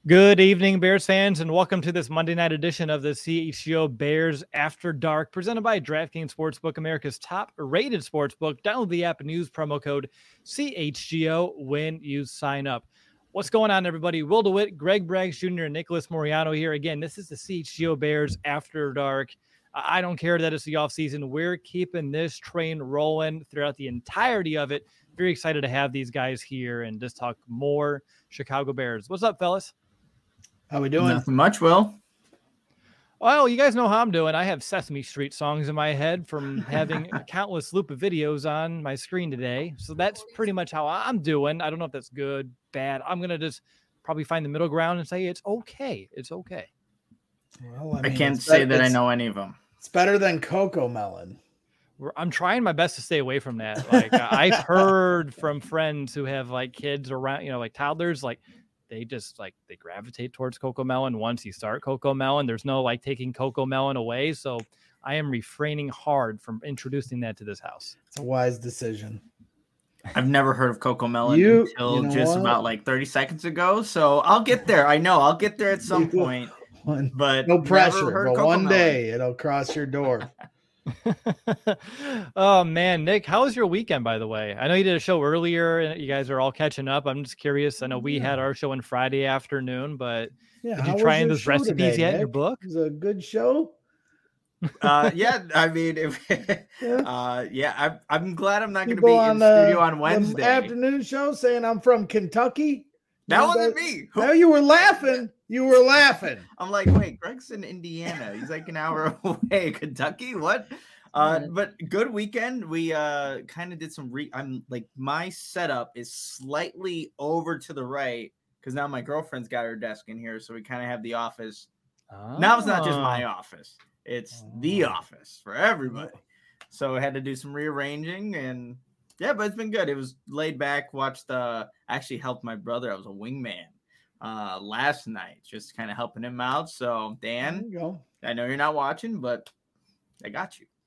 Good evening, Bears fans, and welcome to this Monday night edition of the CHGO Bears After Dark, presented by DraftKings Sportsbook, America's top-rated sportsbook. Download the app and use promo code CHGO when you sign up. What's going on, everybody? Will DeWitt, Greg Braggs Jr., and Nicholas Moriano here. Again, this is the CHGO Bears After Dark. I don't care that it's the offseason. We're keeping this train rolling throughout the entirety of it. Very excited to have these guys here and just talk more Chicago Bears. What's up, fellas? How we doing? Nothing much, Will. Well, you guys know how I'm doing. I have Sesame Street songs in my head from having a countless loop of videos on my screen today. So that's pretty much how I'm doing. I don't know if that's good, bad. I'm going to just probably find the middle ground and say it's okay. It's okay. Well, I can't say that I know any of them. It's better than Coco Melon. I'm trying my best to stay away from that. Like I've heard from friends who have like kids around, like toddlers, like they just they gravitate towards Coco Melon once you start Coco Melon. There's no taking Coco Melon away. So I am refraining hard from introducing that to this house. It's a wise decision. I've never heard of Coco Melon until just about 30 seconds ago. So I'll get there. I know I'll get there at some point. But no pressure. But one day it'll cross your door. Oh man, Nick, how was your weekend, by the way? I know you did a show earlier and you guys are all catching up. I'm just curious. I know we had our show on Friday afternoon, but did you try those recipes yet in your book? It was a good show. Yeah, I mean, I'm glad I'm not going to be in studio on Wednesday. Afternoon show saying I'm from Kentucky. That wasn't me. No, you were laughing. You were laughing. I'm like, wait, Greg's in Indiana. He's like an hour away. Kentucky? What? But good weekend. We kind of did some my setup is slightly over to the right because now my girlfriend's got her desk in here. So we kind of have the office. Oh. Now it's not just my office. It's the office for everybody. So I had to do some rearranging and yeah, but it's been good. It was laid back. Actually helped my brother. I was a wingman last night, just kind of helping him out. So Dan, I know you're not watching, but I got you.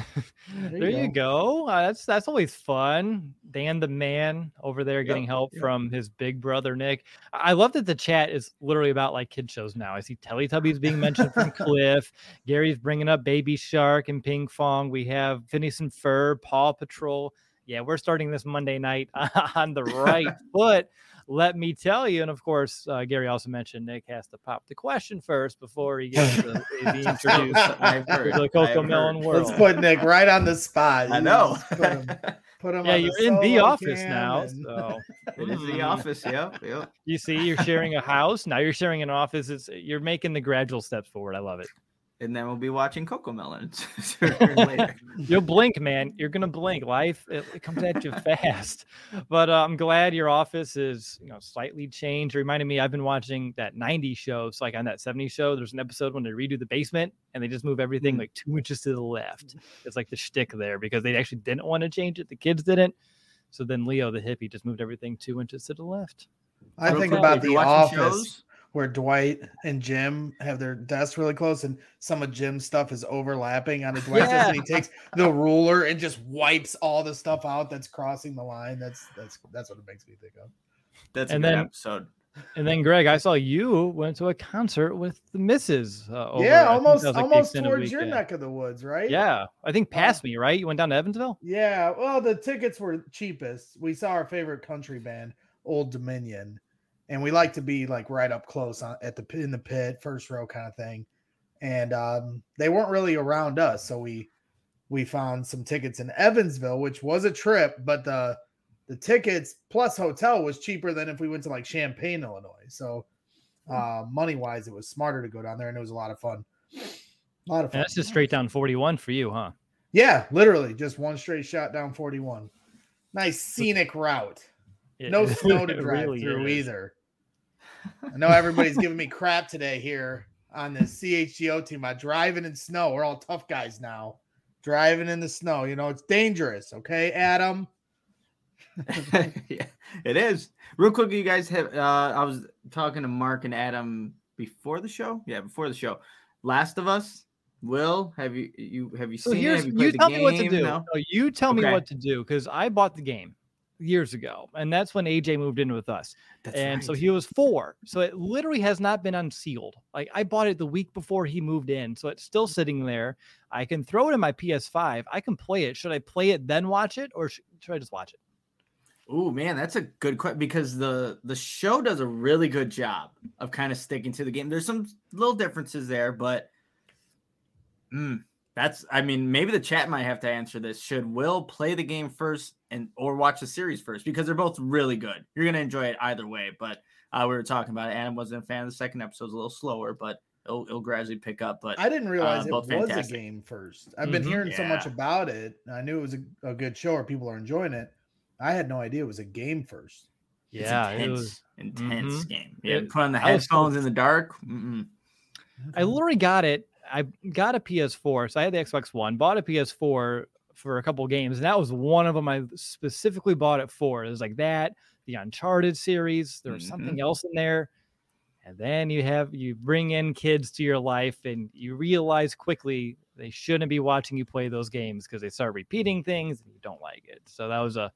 There you go. That's always fun. Dan the man over there getting help from his big brother Nick. I love that the chat is literally about kid shows now. I see Teletubbies being mentioned from Cliff. Gary's bringing up Baby Shark and Ping Pong. We have Phineas and Ferb, Paw Patrol. Yeah, we're starting this Monday night on the right foot. Let me tell you, and of course, Gary also mentioned Nick has to pop the question first before he gets to be introduced to the Coco Melon world. Let's put Nick right on the spot. I know. Put him yeah, you're in the office now. So. It is the office, yep. You see, you're sharing a house. Now you're sharing an office. You're making the gradual steps forward. I love it. And then we'll be watching Coco Melon later. You'll blink, man. You're gonna blink. Life it comes at you fast. But I'm glad your office is slightly changed. It reminded me, I've been watching that 90s show. So on that 70s show, there's an episode when they redo the basement and they just move everything 2 inches to the left. It's the shtick there because they actually didn't want to change it. The kids didn't. So then Leo the hippie just moved everything 2 inches to the left. I think about the office. Where Dwight and Jim have their desks really close and some of Jim's stuff is overlapping on Dwight's desk, and he takes the ruler and just wipes all the stuff out that's crossing the line. That's what it makes me think of. That's a good episode. And then Greg, I saw you went to a concert with the missus. Almost towards your neck of the woods, right? Yeah, I think past me, right? You went down to Evansville? Yeah, well, the tickets were cheapest. We saw our favorite country band, Old Dominion. And we like to be right up close in the pit, first row kind of thing. And they weren't really around us. So we found some tickets in Evansville, which was a trip, but the tickets plus hotel was cheaper than if we went to Champaign, Illinois. So money wise, it was smarter to go down there and it was a lot of fun. And that's just straight down 41 for you, huh? Yeah, literally just one straight shot down 41. Nice scenic route. No snow to drive through either. I know everybody's giving me crap today here on the CHGO team about driving in snow. We're all tough guys now. Driving in the snow, it's dangerous. Okay, Adam? Yeah, it is. Real quick, you guys have I was talking to Mark and Adam before the show. Yeah, before the show. Last of Us. Will, have you seen it? Have you played the game? Me what to do. No, you tell me what to do because I bought the game. years ago, and that's when AJ moved in with us. So right. he was 4. So it literally has not been unsealed. Like I bought it the week before he moved in, so it's still sitting there. I can throw it in my PS5. I can play it. Should I play it then watch it, or should I just watch it? Oh man, that's a good question, because the show does a really good job of kind of sticking to the game. There's some little differences there, but maybe the chat might have to answer this. Should Will play the game first or watch the series first? Because they're both really good. You're gonna enjoy it either way. But we were talking about it. Adam wasn't a fan of the second episode. It was a little slower, but it'll gradually pick up. But I didn't realize it was fantastic. a game first. I've been hearing so much about it. I knew it was a good show, or people are enjoying it. I had no idea it was a game first. Yeah, it was intense game. Yeah, put on the headphones in the dark. I literally got it. I got a PS4, so I had the Xbox One, bought a PS4 for a couple of games, and that was one of them I specifically bought it for. It was like that, the Uncharted series. There was something else in there. And then you bring in kids to your life, and you realize quickly they shouldn't be watching you play those games because they start repeating things and you don't like it. So that was a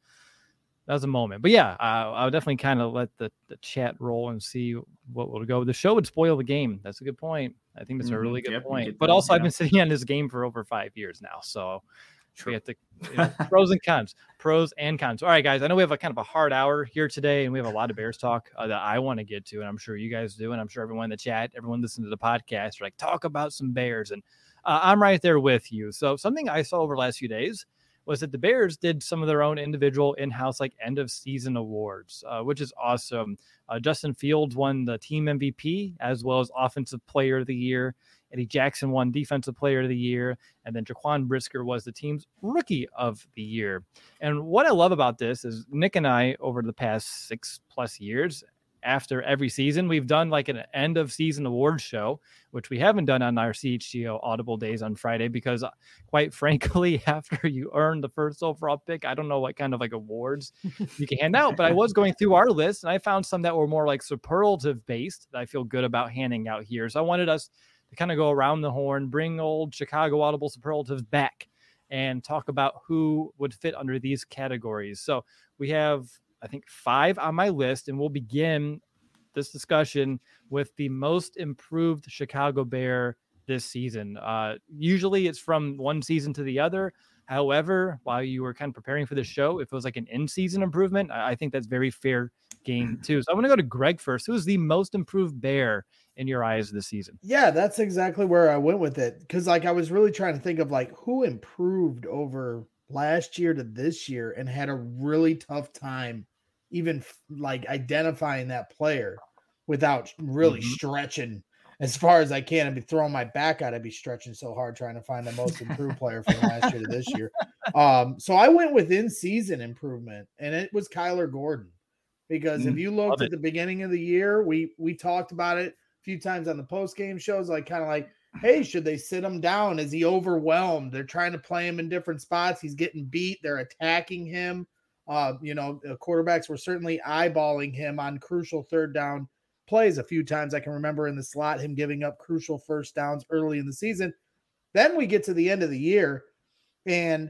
moment. But yeah, I'll definitely kind of let the chat roll and see what will go. The show would spoil the game. That's a good point. I think that's a really good point. But also, I've been sitting on this game for over 5 years now, so we have to pros and cons. All right, guys. I know we have a kind of a hard hour here today, and we have a lot of Bears talk that I want to get to, and I'm sure you guys do, and I'm sure everyone in the chat, everyone listening to the podcast, are like, talk about some Bears, and I'm right there with you. So something I saw over the last few days was that the Bears did some of their own individual in-house like end of season awards, which is awesome. Justin Fields won the team MVP as well as offensive player of the year. Eddie Jackson won defensive player of the year. And then Jaquan Brisker was the team's rookie of the year. And what I love about this is Nick and I, over the past 6+ years, after every season, we've done like an end of season awards show, which we haven't done on our CHGO Audible days on Friday, because quite frankly, after you earn the first overall pick, I don't know what kind of like awards you can hand out. But I was going through our list and I found some that were more like superlative based that I feel good about handing out here. So I wanted us to kind of go around the horn, bring old Chicago Audible superlatives back and talk about who would fit under these categories. So we have, I think, 5 on my list, and we'll begin this discussion with the most improved Chicago Bear this season. Usually it's from one season to the other. However, while you were kind of preparing for the show, if it was like an in-season improvement, I think that's very fair game too. So I'm going to go to Greg first. Who is the most improved Bear in your eyes this season? Yeah, that's exactly where I went with it. Because like I was really trying to think of like who improved over last year to this year and had a really tough time even like identifying that player without really stretching as far as I can. I'd be throwing my back out. I'd be stretching so hard trying to find the most improved player from last year to this year. So I went with in-season improvement, and it was Kyler Gordon. Because if you looked at the beginning of the year, we talked about it a few times on the post-game shows, like kind of like, hey, should they sit him down? Is he overwhelmed? They're trying to play him in different spots. He's getting beat. They're attacking him. Quarterbacks were certainly eyeballing him on crucial third down plays a few times. I can remember in the slot him giving up crucial first downs early in the season. Then we get to the end of the year, and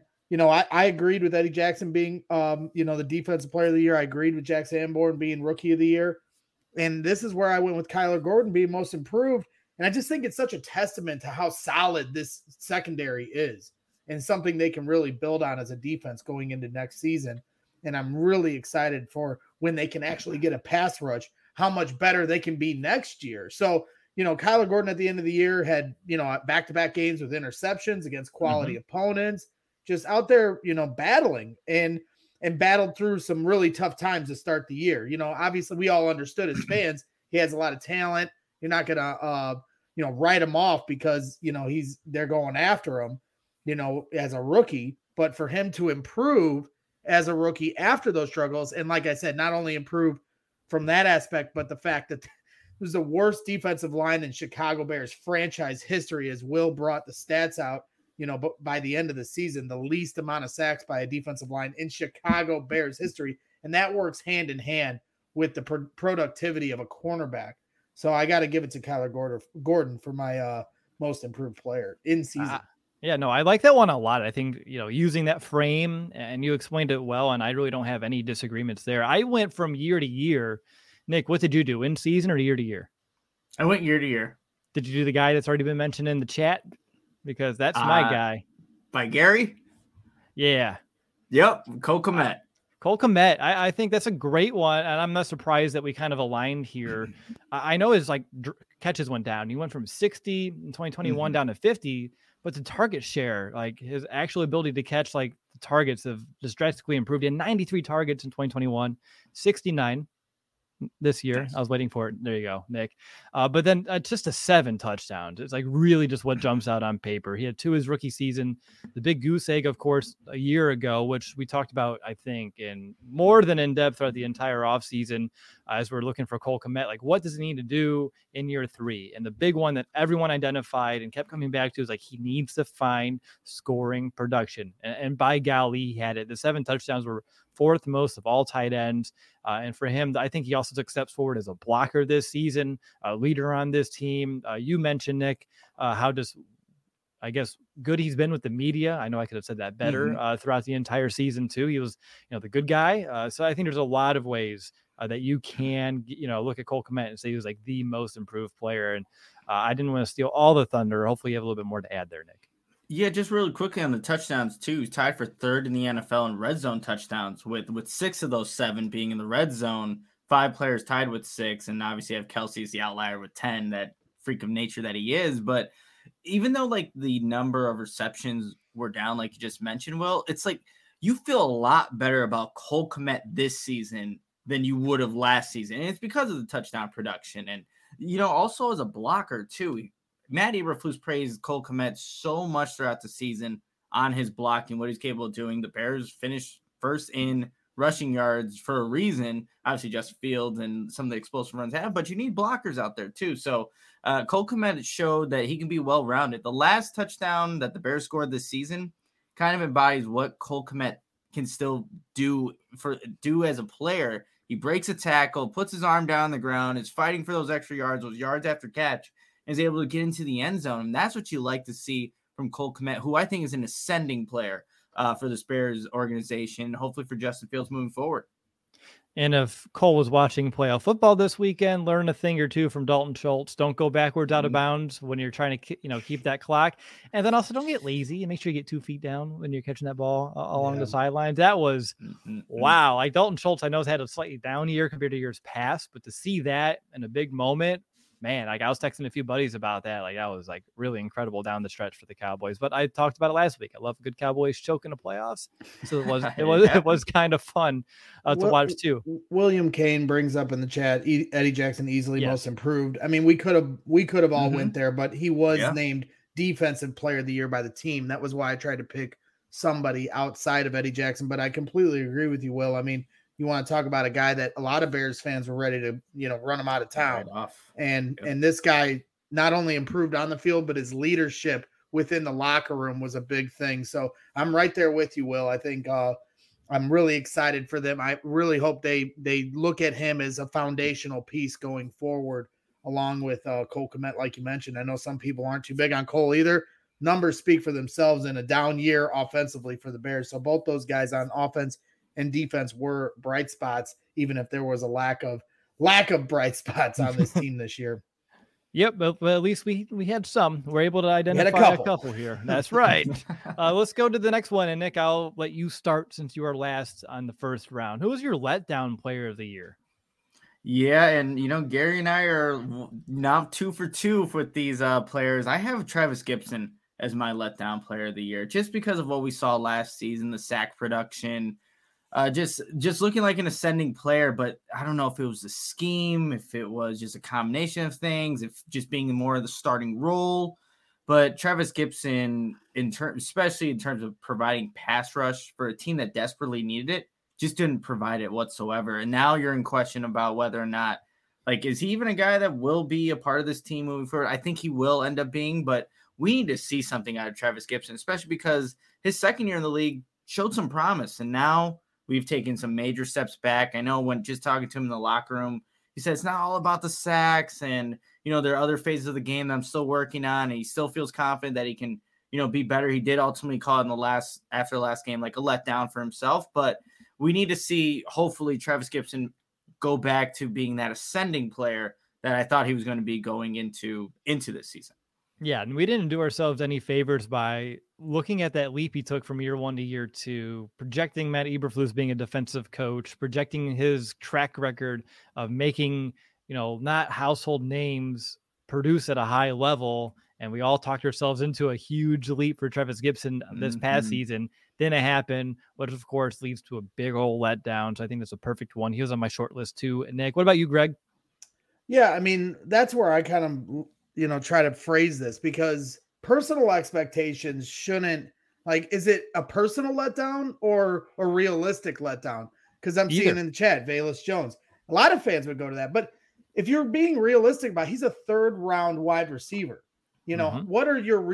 I agreed with Eddie Jackson being the defensive player of the year. I agreed with Jack Sanborn being rookie of the year, and this is where I went with Kyler Gordon being most improved. And I just think it's such a testament to how solid this secondary is and something they can really build on as a defense going into next season. And I'm really excited for when they can actually get a pass rush, how much better they can be next year. So, Kyler Gordon at the end of the year had, back-to-back games with interceptions against quality opponents, just out there, battling and battled through some really tough times to start the year. Obviously we all understood as fans, he has a lot of talent. You're not going to, write him off because, they're going after him, as a rookie. But for him to improve as a rookie after those struggles, and like I said, not only improve from that aspect, but the fact that it was the worst defensive line in Chicago Bears franchise history, as Will brought the stats out, but by the end of the season, the least amount of sacks by a defensive line in Chicago Bears history. And that works hand in hand with the productivity of a cornerback. So I got to give it to Kyler Gordon for my most improved player in season. Yeah, no, I like that one a lot. I think, using that frame, and you explained it well, and I really don't have any disagreements there. I went from year to year. Nick, what did you do? In season or year to year? I went year to year. Did you do the guy that's already been mentioned in the chat? Because that's my guy. By Gary? Yeah. Yep, Cole Kmet. Cole Kmet, I think that's a great one, and I'm not surprised that we kind of aligned here. I know his catches went down. He went from 60 in 2021 down to 50, but the target share, like his actual ability to catch the targets, have just drastically improved. He had 93 targets in 2021, 69 this year. Nice. I was waiting for it. There you go, Nick. But then just a 7 touchdowns. It's really just what jumps out on paper. He had 2 his rookie season. The big goose egg, of course, a year ago, which we talked about, I think, in more than in depth throughout the entire offseason as we're looking for Cole Kmet. What does he need to do in year 3? And the big one that everyone identified and kept coming back to is he needs to find scoring production. And by golly, he had it. The 7 touchdowns were 4th most of all tight ends. And for him, I think he also took steps forward as a blocker this season, a leader on this team. You mentioned, Nick, how good he's been with the media. I know I could have said that better throughout the entire season too. He was, the good guy. So I think there's a lot of ways that you can, look at Cole Kmet and say he was the most improved player. And I didn't want to steal all the thunder. Hopefully you have a little bit more to add there, Nick. Yeah, just really quickly on the touchdowns too. He's tied for 3rd in the NFL in red zone touchdowns, with 6 of those 7 being in the red zone. 5 players tied with 6, and obviously have Kelsey as the outlier with 10. That freak of nature that he is. But even though the number of receptions were down, like you just mentioned, Will, it's you feel a lot better about Cole Kmet this season than you would have last season, and it's because of the touchdown production, and also as a blocker too. Matt Eberflus praised Cole Kmet so much throughout the season on his blocking, what he's capable of doing. The Bears finished 1st in rushing yards for a reason. Obviously, Justin Fields and some of the explosive runs have, but you need blockers out there too. So Cole Kmet showed that he can be well-rounded. The last touchdown that the Bears scored this season kind of embodies what Cole Kmet can still do as a player. He breaks a tackle, puts his arm down on the ground, is fighting for those extra yards, those yards after catch, is able to get into the end zone. And that's what you like to see from Cole Kmet, who I think is an ascending player for the Bears organization, hopefully for Justin Fields moving forward. And if Cole was watching playoff football this weekend, learn a thing or two from Dalton Schultz. Don't go backwards out of bounds when you're trying to, keep that clock. And then also don't get lazy and make sure you get 2 feet down when you're catching that ball along the sidelines. That was, wow. Dalton Schultz, I know, has had a slightly down year compared to years past, but to see that in a big moment, man, I was texting a few buddies about that. That was really incredible down the stretch for the Cowboys. But I talked about it last week. I love a good Cowboys choke in the playoffs. So it was kind of fun to watch too. William Kane brings up in the chat, Eddie Jackson easily most improved. I mean, we could have all went there, but he was named Defensive Player of the Year by the team. That was why I tried to pick somebody outside of Eddie Jackson. But I completely agree with you, Will. I mean, you want to talk about a guy that a lot of Bears fans were ready to, run him out of town. And this guy not only improved on the field, but his leadership within the locker room was a big thing. So I'm right there with you, Will. I think I'm really excited for them. I really hope they look at him as a foundational piece going forward, along with Cole Kmet, like you mentioned. I know some people aren't too big on Cole either. Numbers speak for themselves in a down year offensively for the Bears. So both those guys on offense and defense were bright spots, even if there was a lack of bright spots on this team this year. Yep, but at least we had some. We're able to identify a couple here. That's right. Let's go to the next one. And Nick, I'll let you start since you are last on the first round. Who was your letdown player of the year? Yeah, and Gary and I are now 2 for 2 with these players. I have Travis Gibson as my letdown player of the year, just because of what we saw last season, the sack production. Just looking like an ascending player, but I don't know if it was the scheme, if it was just a combination of things, if just being more of the starting role. But Travis Gibson, especially in terms of providing pass rush for a team that desperately needed it, just didn't provide it whatsoever. And now you're in question about whether or not, is he even a guy that will be a part of this team moving forward? I think he will end up being, but we need to see something out of Travis Gibson, especially because his second year in the league showed some promise, and now we've taken some major steps back. I know when just talking to him in the locker room, he said it's not all about the sacks, and there are other phases of the game that I'm still working on, and he still feels confident that he can be better. He did ultimately call it after the last game like a letdown for himself, but we need to see hopefully Travis Gibson go back to being that ascending player that I thought he was going to be going into this season. Yeah, and we didn't do ourselves any favors by looking at that leap he took from year 1 to year 2, projecting Matt Eberflus being a defensive coach, projecting his track record of making, not household names produce at a high level. And we all talked ourselves into a huge leap for Travis Gibson this past season. Didn't happen, which of course leads to a big old letdown. So I think that's a perfect one. He was on my short list too. Nick, what about you, Greg? Yeah, I mean, that's where I kind of try to phrase this, because personal expectations shouldn't, is it a personal letdown or a realistic letdown? Because I'm seeing in the chat, Velus Jones, a lot of fans would go to that. But if you're being realistic about, he's a 3rd round wide receiver. What were your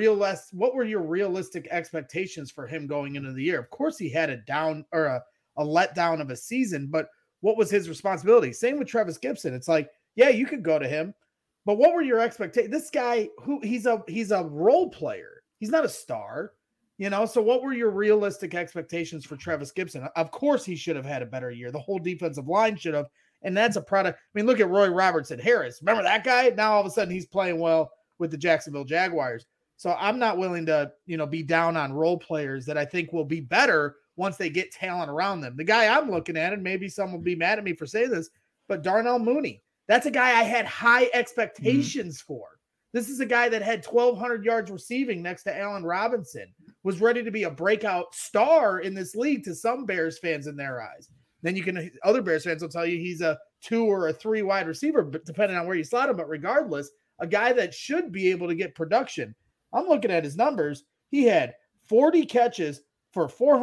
realistic expectations for him going into the year? Of course, he had a down or a letdown of a season, but what was his responsibility? Same with Travis Gibson. It's like, yeah, you could go to him. But what were your expectations? This guy, he's a role player. He's not a star, So what were your realistic expectations for Travis Gibson? Of course, he should have had a better year. The whole defensive line should have. And that's a product. I mean, look at Roy Robertson Harris. Remember that guy? Now all of a sudden he's playing well with the Jacksonville Jaguars. So I'm not willing to, be down on role players that I think will be better once they get talent around them. The guy I'm looking at, and maybe some will be mad at me for saying this, but Darnell Mooney. That's a guy I had high expectations for. This is a guy that had 1,200 yards receiving next to Allen Robinson, was ready to be a breakout star in this league to some Bears fans in their eyes. Then other Bears fans will tell you he's a 2 or a 3 wide receiver, but depending on where you slot him. But regardless, a guy that should be able to get production. I'm looking at his numbers. He had 40 catches for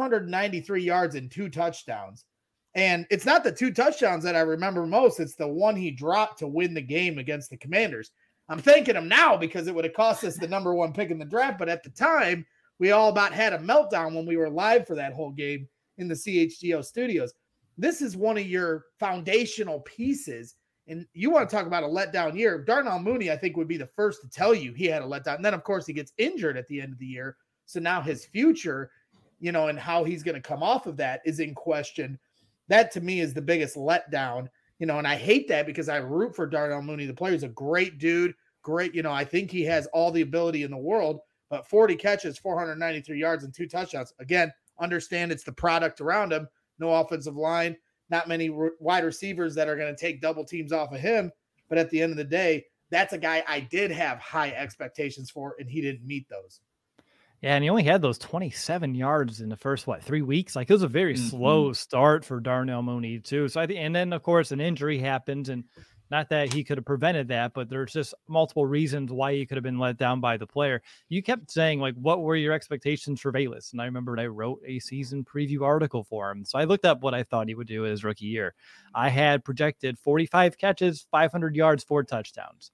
493 yards and 2 touchdowns. And it's not the 2 touchdowns that I remember most. It's the one he dropped to win the game against the Commanders. I'm thanking him now because it would have cost us the number 1 pick in the draft. But at the time, we all about had a meltdown when we were live for that whole game in the CHGO studios. This is one of your foundational pieces. And you want to talk about a letdown year. Darnell Mooney, I think, would be the first to tell you he had a letdown. And then, of course, he gets injured at the end of the year. So now his future, and how he's going to come off of that is in question. That to me is the biggest letdown, and I hate that because I root for Darnell Mooney. The player's a great dude. Great. I think he has all the ability in the world, but 40 catches, 493 yards and 2 touchdowns. Again, understand it's the product around him. No offensive line, not many wide receivers that are going to take double teams off of him. But at the end of the day, that's a guy I did have high expectations for, and he didn't meet those. Yeah, and he only had those 27 yards in the first, 3 weeks? It was a very slow start for Darnell Mooney, too. So I think, and then, of course, an injury happens, and not that he could have prevented that, but there's just multiple reasons why he could have been let down by the player. You kept saying, what were your expectations for Velus? And I remembered I wrote a season preview article for him. So I looked up what I thought he would do his rookie year. I had projected 45 catches, 500 yards, 4 touchdowns.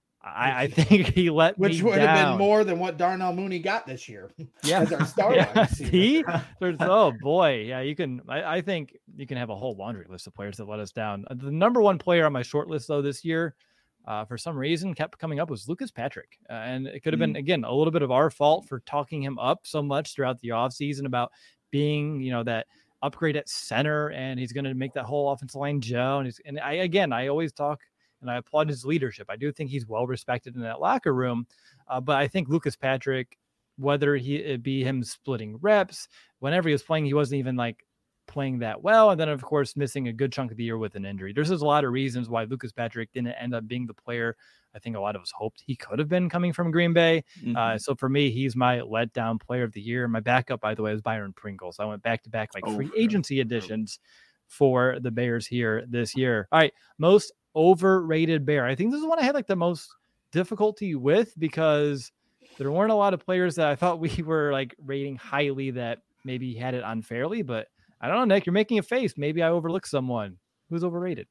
I think he let me down. Which would have been more than what Darnell Mooney got this year. Yeah. As our star See? Oh, boy. Yeah, you can. I think you can have a whole laundry list of players that let us down. The number 1 player on my short list, though, this year, for some reason, kept coming up was Lucas Patrick. And it could have been, again, a little bit of our fault for talking him up so much throughout the offseason about being, that upgrade at center, and he's going to make that whole offensive line gel. And I always talk, and I applaud his leadership. I do think he's well respected in that locker room. But I think Lucas Patrick, whether it be him splitting reps, whenever he was playing, he wasn't even playing that well. And then, of course, missing a good chunk of the year with an injury. There's just a lot of reasons why Lucas Patrick didn't end up being the player I think a lot of us hoped he could have been coming from Green Bay. So for me, he's my letdown player of the year. My backup, by the way, is Byron Pringles. I went back-to-back free agency additions for the Bears here this year. All right, most overrated Bear. I think this is one I had the most difficulty with because there weren't a lot of players that I thought we were rating highly that maybe had it unfairly, but I don't know, Nick, you're making a face. Maybe I overlooked someone. Who's overrated?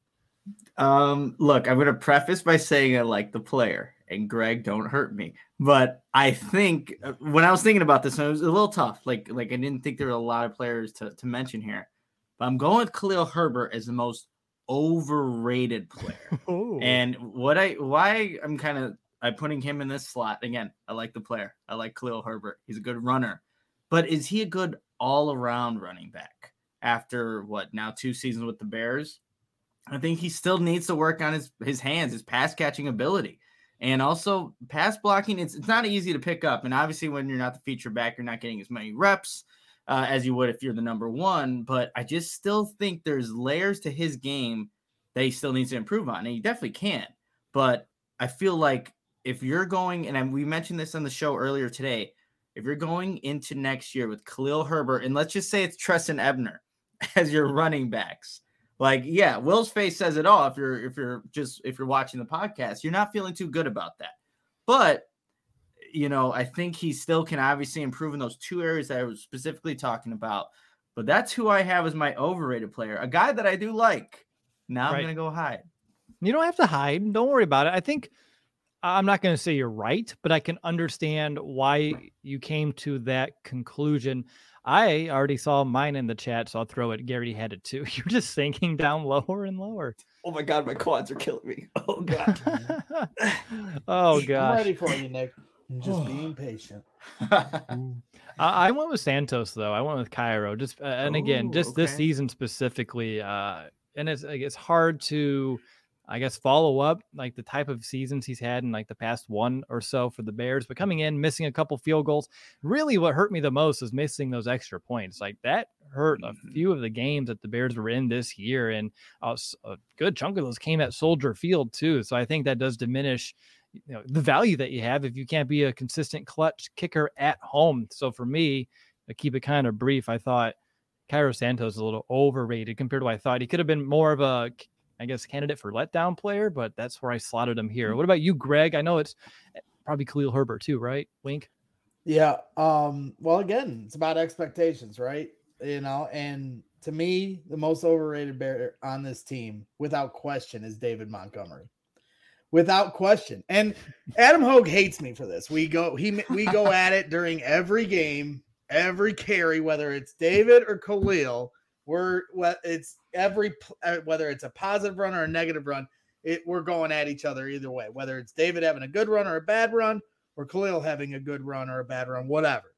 Look, I'm going to preface by saying I like the player, and Greg, don't hurt me. But I think when I was thinking about this, it was a little tough. I didn't think there were a lot of players to mention here, but I'm going with Khalil Herbert as the most overrated player. And why I'm kind of I'm putting him in this slot. Again, I like the player. I like Khalil Herbert. He's a good runner. But is he a good all-around running back after, now 2 seasons with the Bears? I think he still needs to work on his hands, his pass-catching ability. And also pass blocking, it's not easy to pick up. And obviously when you're not the feature back, you're not getting as many reps as you would if you're the number one. But I just still think there's layers to his game that he still needs to improve on. And he definitely can. But I feel like if you're going, and we mentioned this on the show earlier today, if you're going into next year with Khalil Herbert, and let's just say it's Treston Ebner as your running backs, Will's face says it all. If you're watching the podcast, you're not feeling too good about that. But, I think he still can obviously improve in those 2 areas that I was specifically talking about. But that's who I have as my overrated player, a guy that I do like. Now I'm going to go hide. You don't have to hide. Don't worry about it. I think I'm not going to say you're right, but I can understand why you came to that conclusion. I already saw mine in the chat, so I'll throw it. Gary had it too. You're just sinking down lower and lower. Oh my God, my quads are killing me. Oh God. Oh gosh. I'm ready for you, Nick. I'm just being patient. I went with Santos though. I went with Cairo. Just this season specifically. And it's hard to, I guess, follow up like the type of seasons he's had in like the past 1 or so for the Bears, but coming in, missing a couple field goals. Really what hurt me the most is missing those extra points. Like that hurt a few of the games that the Bears were in this year. And a good chunk of those came at Soldier Field too. So I think that does diminish, the value that you have if you can't be a consistent clutch kicker at home. So for me, to keep it kind of brief, I thought Cairo Santos is a little overrated compared to what I thought. He could have been more of a, I guess, candidate for letdown player, but that's where I slotted him here. What about you, Greg? I know it's probably Khalil Herbert too, right? Wink. Yeah. Well, again, it's about expectations, right? And to me, the most overrated Bear on this team, without question, is David Montgomery. Without question. And Adam Hogue hates me for this. We go at it during every game, every carry, whether it's David or Khalil. Whether it's a positive run or a negative run, we're going at each other either way. Whether it's David having a good run or a bad run, or Khalil having a good run or a bad run, whatever.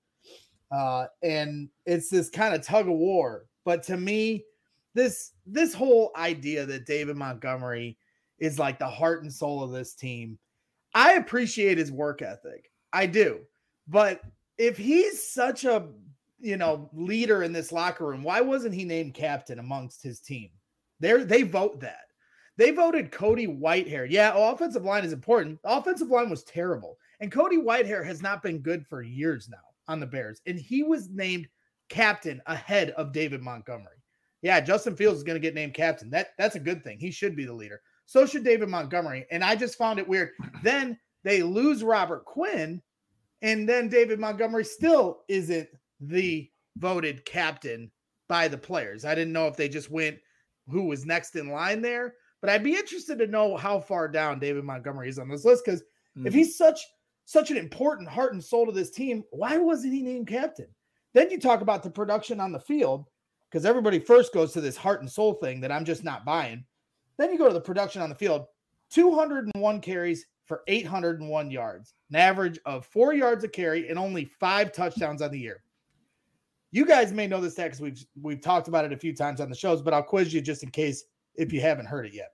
And it's this kind of tug of war. But to me, this whole idea that David Montgomery is like the heart and soul of this team, I appreciate his work ethic. I do. But if he's such a leader in this locker room, why wasn't he named captain amongst his team? They vote that. They voted Cody Whitehair. Yeah, offensive line is important. The offensive line was terrible. And Cody Whitehair has not been good for years now on the Bears. And he was named captain ahead of David Montgomery. Yeah, Justin Fields is going to get named captain. That's a good thing. He should be the leader. So should David Montgomery. And I just found it weird. Then they lose Robert Quinn, and then David Montgomery still isn't the voted captain by the players. I didn't know if they just went who was next in line there, but I'd be interested to know how far down David Montgomery is on this list, because if he's such an important heart and soul to this team, why wasn't he named captain? Then you talk about the production on the field, because everybody first goes to this heart and soul thing that I'm just not buying. Then you go to the production on the field, 201 carries for 801 yards, an average of 4 yards a carry and only 5 touchdowns on the year. You guys may know this stat because we've talked about it a few times on the shows, but I'll quiz you just in case if you haven't heard it yet.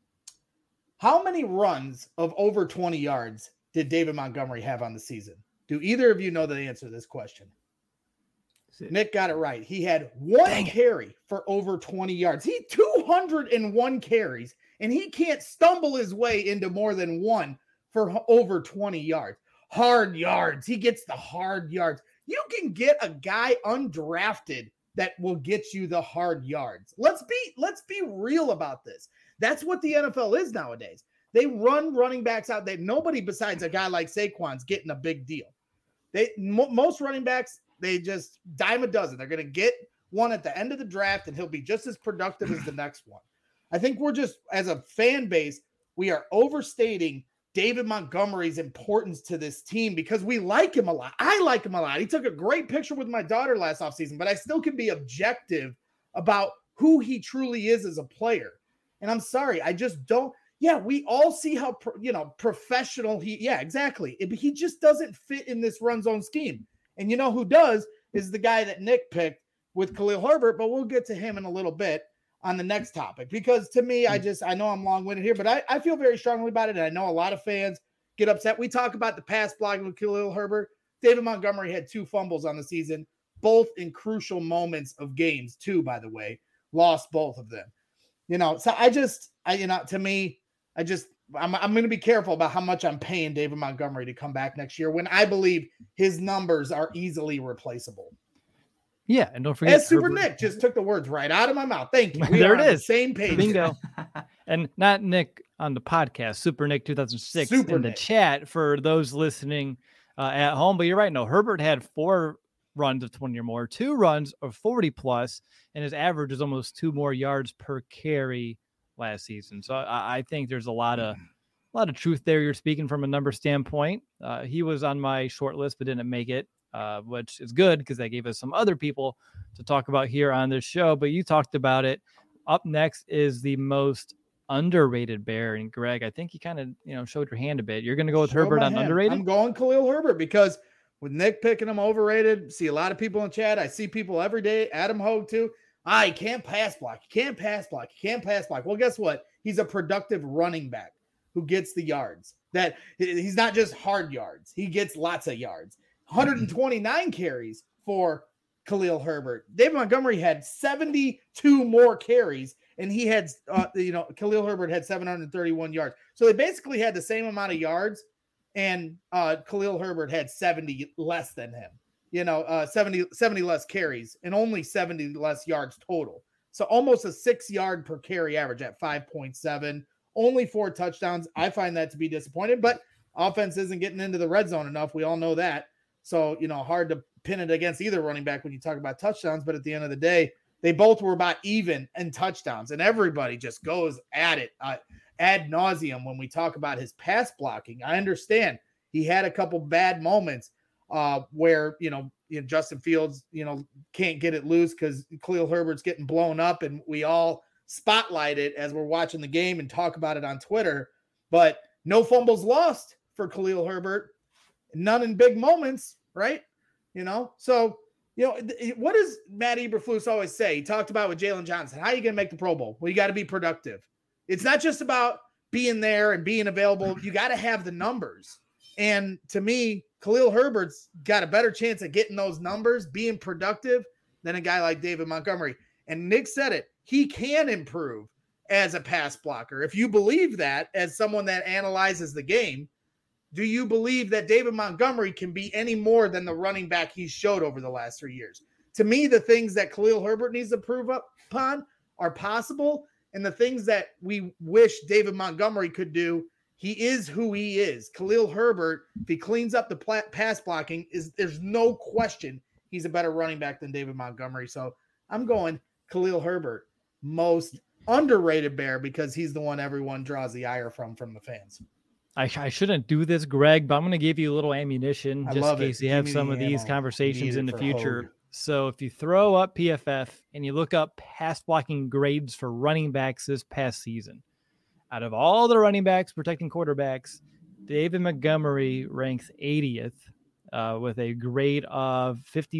How many runs of over 20 yards did David Montgomery have on the season? Do either of you know the answer to this question? Nick got it right. He had one carry for over 20 yards. He 201 carries, and he can't stumble his way into more than one for over 20 yards. Hard yards. He gets the hard yards. You can get a guy undrafted that will get you the hard yards. Let's be real about this. That's what the NFL is nowadays. They run running backs out that nobody besides a guy like Saquon's getting a big deal. Most running backs, they just dime a dozen. They're going to get one at the end of the draft, and he'll be just as productive as the next one. I think we're just, as a fan base, we are overstating David Montgomery's importance to this team because we like him a lot. I like him a lot. He took a great picture with my daughter last offseason, but I still can be objective about who he truly is as a player. And I'm sorry, I just don't. yeah, we all see how, professional exactly. He just doesn't fit in this run zone scheme. And you know who does is the guy that Nick picked with Khalil Herbert, but we'll get to him in a little bit on the next topic, because to me, I know I'm long-winded here, but I feel very strongly about it. And I know a lot of fans get upset. We talk about the pass blocking with Khalil Herbert. David Montgomery had 2 fumbles on the season, both in crucial moments of games, too, by the way, lost both of them. So to me, I'm going to be careful about how much I'm paying David Montgomery to come back next year when I believe his numbers are easily replaceable. Yeah, and don't forget, as Super Nick just took the words right out of my mouth. Thank you. There it is. Same page. Bingo. And not Nick on the podcast, Super Nick 2006 in the chat for those listening at home. But you're right. No, Herbert had 4 runs of 20 or more, 2 runs of 40 plus, and his average is almost 2 more yards per carry last season. So I think there's a lot of truth there. You're speaking from a number standpoint. He was on my short list, but didn't make it. Which is good because that gave us some other people to talk about here on this show. But you talked about it. Up next is the most underrated Bear. And Greg, I think you kind of, showed your hand a bit. You're going to go with Herbert on underrated? I'm going Khalil Herbert because with Nick picking him overrated, see a lot of people in chat. I see people every day. Adam Hogue too. He can't pass block. He can't pass block. He can't pass block. Well, guess what? He's a productive running back who gets the yards. That he's not just hard yards. He gets lots of yards. 129 carries for Khalil Herbert. David Montgomery had 72 more carries, and he had, Khalil Herbert had 731 yards. So they basically had the same amount of yards, and Khalil Herbert had 70 less than him. 70 less carries and only 70 less yards total. So almost a 6-yard per carry average at 5.7. Only 4 touchdowns. I find that to be disappointing, but offense isn't getting into the red zone enough. We all know that. So, hard to pin it against either running back when you talk about touchdowns. But at the end of the day, they both were about even in touchdowns. And everybody just goes at it ad nauseum when we talk about his pass blocking. I understand he had a couple bad moments where, Justin Fields, can't get it loose because Khalil Herbert's getting blown up. And we all spotlight it as we're watching the game and talk about it on Twitter. But no fumbles lost for Khalil Herbert. None in big moments, right? So, what does Matt Eberflus always say? He talked about with Jalen Johnson. How are you going to make the Pro Bowl? Well, you got to be productive. It's not just about being there and being available. You got to have the numbers. And to me, Khalil Herbert's got a better chance of getting those numbers, being productive, than a guy like David Montgomery. And Nick said it. He can improve as a pass blocker. If you believe that as someone that analyzes the game, do you believe that David Montgomery can be any more than the running back he showed over the last 3 years? To me, the things that Khalil Herbert needs to prove upon are possible, and the things that we wish David Montgomery could do, he is who he is. Khalil Herbert, if he cleans up the pass blocking, there's no question he's a better running back than David Montgomery. So I'm going Khalil Herbert, most underrated Bear, because he's the one everyone draws the ire from the fans. I shouldn't do this, Greg, but I'm going to give you a little ammunition just in case you have some of these conversations in the future. So if you throw up PFF and you look up pass blocking grades for running backs this past season, out of all the running backs protecting quarterbacks, David Montgomery ranks 80th with a grade of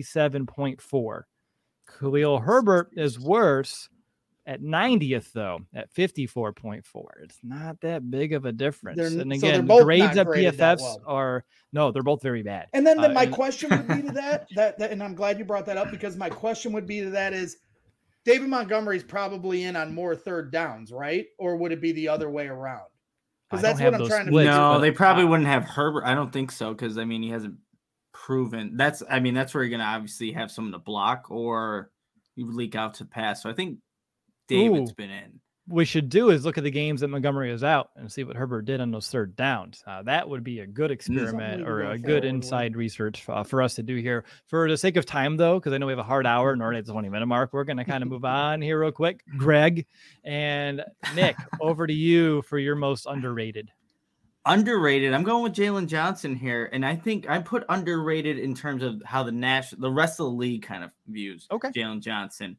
57.4. Khalil Herbert is worse at 90th, though, at 54.4. It's not that big of a difference. And again, the grades at PFFs are, no, they're both very bad. And then my question would be to that, and I'm glad you brought that up, because my question would be to that is, David Montgomery's probably in on more third downs, right? Or would it be the other way around? Because that's what I'm trying to figure. No, they probably wouldn't have Herbert. I don't think so, because, he hasn't proven. That's where you're going to obviously have someone to block or you leak out to pass. So I think David's been in. We should do is look at the games that Montgomery is out and see what Herbert did on those third downs. That would be a good experiment or a good inside research for us to do here. For the sake of time, though, because I know we have a hard hour and already at the 20-minute mark, we're going to kind of move on here real quick. Greg and Nick, over to you for your most underrated. Underrated. I'm going with Jalen Johnson here, and I think I put underrated in terms of how the rest of the league kind of views Jalen Johnson.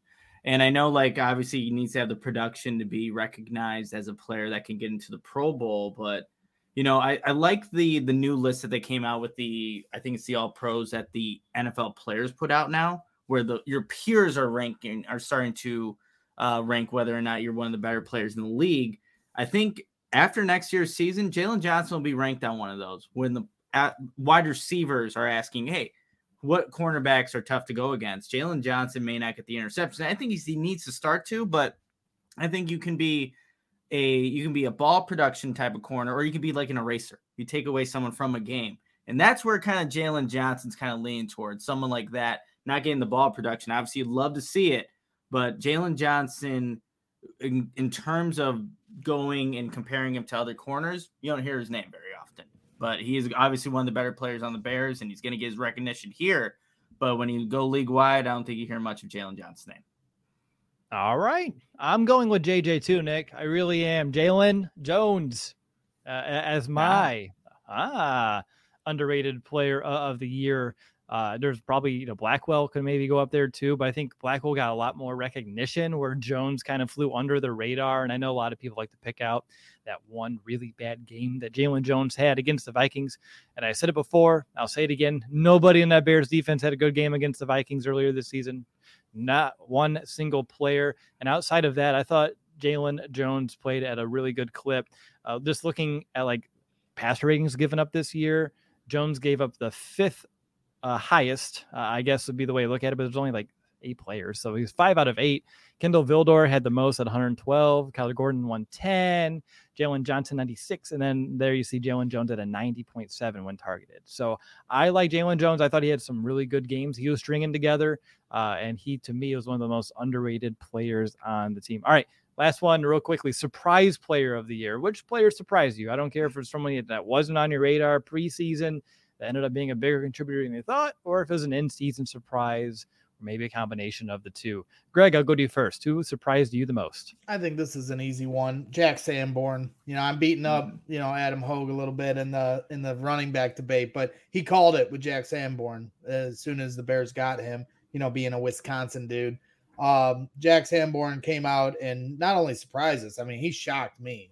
And I know, like, obviously he needs to have the production to be recognized as a player that can get into the Pro Bowl. But, I like the new list that they came out with I think it's the All Pros that the NFL players put out now, where your peers are starting to rank whether or not you're one of the better players in the league. I think after next year's season, Jalen Johnson will be ranked on one of those when the wide receivers are asking, hey, what cornerbacks are tough to go against? Jalen Johnson may not get the interception. I think he needs to start to, but I think you can be a ball production type of corner, or you can be like an eraser. You take away someone from a game. And that's where kind of Jalen Johnson's kind of leaning towards, someone like that, not getting the ball production. Obviously, you'd love to see it, but Jalen Johnson, in terms of going and comparing him to other corners, you don't hear his name very often. But he is obviously one of the better players on the Bears, and he's going to get his recognition here. But when you go league-wide, I don't think you hear much of Jalen Johnson's name. All right. I'm going with JJ too, Nick. I really am. Jalen Jones as my underrated player of the year. There's probably, Blackwell could maybe go up there too, but I think Blackwell got a lot more recognition where Jones kind of flew under the radar. And I know a lot of people like to pick out that one really bad game that Jalen Jones had against the Vikings. And I said it before, I'll say it again. Nobody in that Bears defense had a good game against the Vikings earlier this season. Not one single player. And outside of that, I thought Jalen Jones played at a really good clip. Just looking at like pass ratings given up this year, Jones gave up the fifth highest, I guess would be the way to look at it, but there's only like 8 players. So he's 5 out of 8. Kendall Vildor had the most at 112, Kyler Gordon 110, Jalen Johnson 96, and then there you see Jalen Jones at a 90.7 when targeted. So I like Jalen Jones. I thought he had some really good games he was stringing together, and he, to me, was one of the most underrated players on the team. All right, last one real quickly. Surprise player of the year. Which player surprised you? I don't care if it's someone that wasn't on your radar preseason that ended up being a bigger contributor than you thought, or if it was an in-season surprise, or maybe a combination of the two. Greg, I'll go to you first. Who surprised you the most? I think this is an easy one. Jack Sanborn. I'm beating up, Adam Hogue a little bit in the running back debate, but he called it with Jack Sanborn as soon as the Bears got him, being a Wisconsin dude. Jack Sanborn came out and not only surprised us, I mean, he shocked me.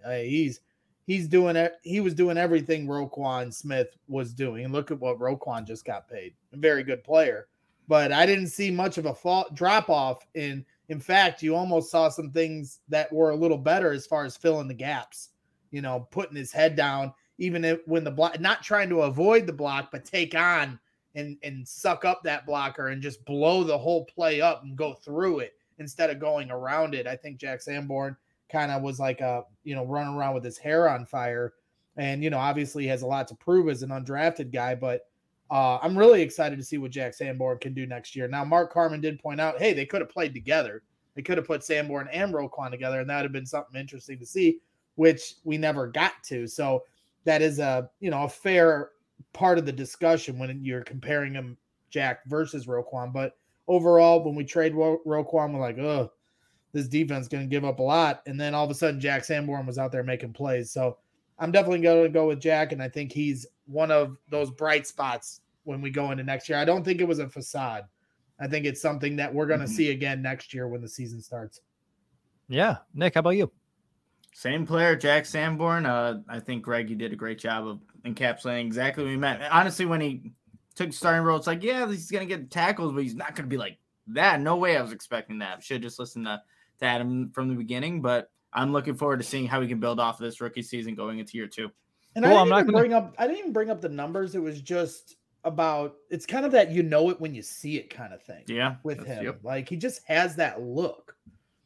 He's doing it. He was doing everything Roquan Smith was doing. And look at what Roquan just got paid. A very good player. But I didn't see much of a drop off. In fact, you almost saw some things that were a little better as far as filling the gaps, putting his head down, even when the block, not trying to avoid the block, but take on and suck up that blocker and just blow the whole play up and go through it instead of going around it. I think Jack Sanborn kind of was like running around with his hair on fire, and obviously he has a lot to prove as an undrafted guy, but I'm really excited to see what Jack Sanborn can do next year. Now, Mark Carman did point out, hey, they could have played together. They could have put Sanborn and Roquan together, and that would have been something interesting to see, which we never got to. So that is a fair part of the discussion when you're comparing him, Jack versus Roquan. But overall, when we trade Roquan, we're like, oh, this defense is going to give up a lot. And then all of a sudden, Jack Sanborn was out there making plays. So I'm definitely going to go with Jack, and I think he's one of those bright spots when we go into next year. I don't think it was a facade. I think it's something that we're going to see again next year when the season starts. Yeah. Nick, how about you? Same player, Jack Sanborn. I think, Greg, you did a great job of encapsulating exactly what we meant. Honestly, when he took the starting role, it's like, yeah, he's going to get tackles, but he's not going to be like that. No way I was expecting that. Should have just listened to Adam from the beginning, but I'm looking forward to seeing how we can build off of this rookie season going into year 2. And I didn't even bring up the numbers. It was just about, it's kind of that it when you see it kind of thing. Yeah, with him, yep. Like he just has that look.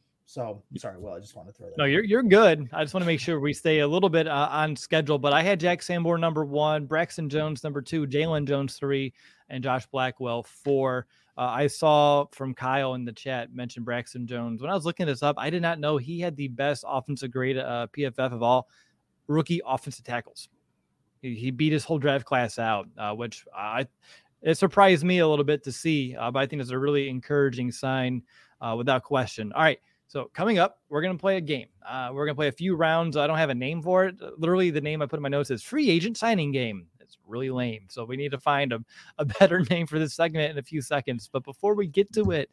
So sorry, Will, I just want to throw that. No, you're good. I just want to make sure we stay a little bit on schedule. But I had Jack Sanborn number 1, Braxton Jones number 2, Jalen Jones 3, and Josh Blackwell 4. I saw from Kyle in the chat mention Braxton Jones. When I was looking this up, I did not know he had the best offensive grade PFF of all rookie offensive tackles. He beat his whole draft class out, which it surprised me a little bit to see, but I think it's a really encouraging sign without question. All right, so coming up, we're going to play a game. We're going to play a few rounds. I don't have a name for it. Literally, the name I put in my notes is free agent signing game. It's really lame. So we need to find a better name for this segment in a few seconds. But before we get to it,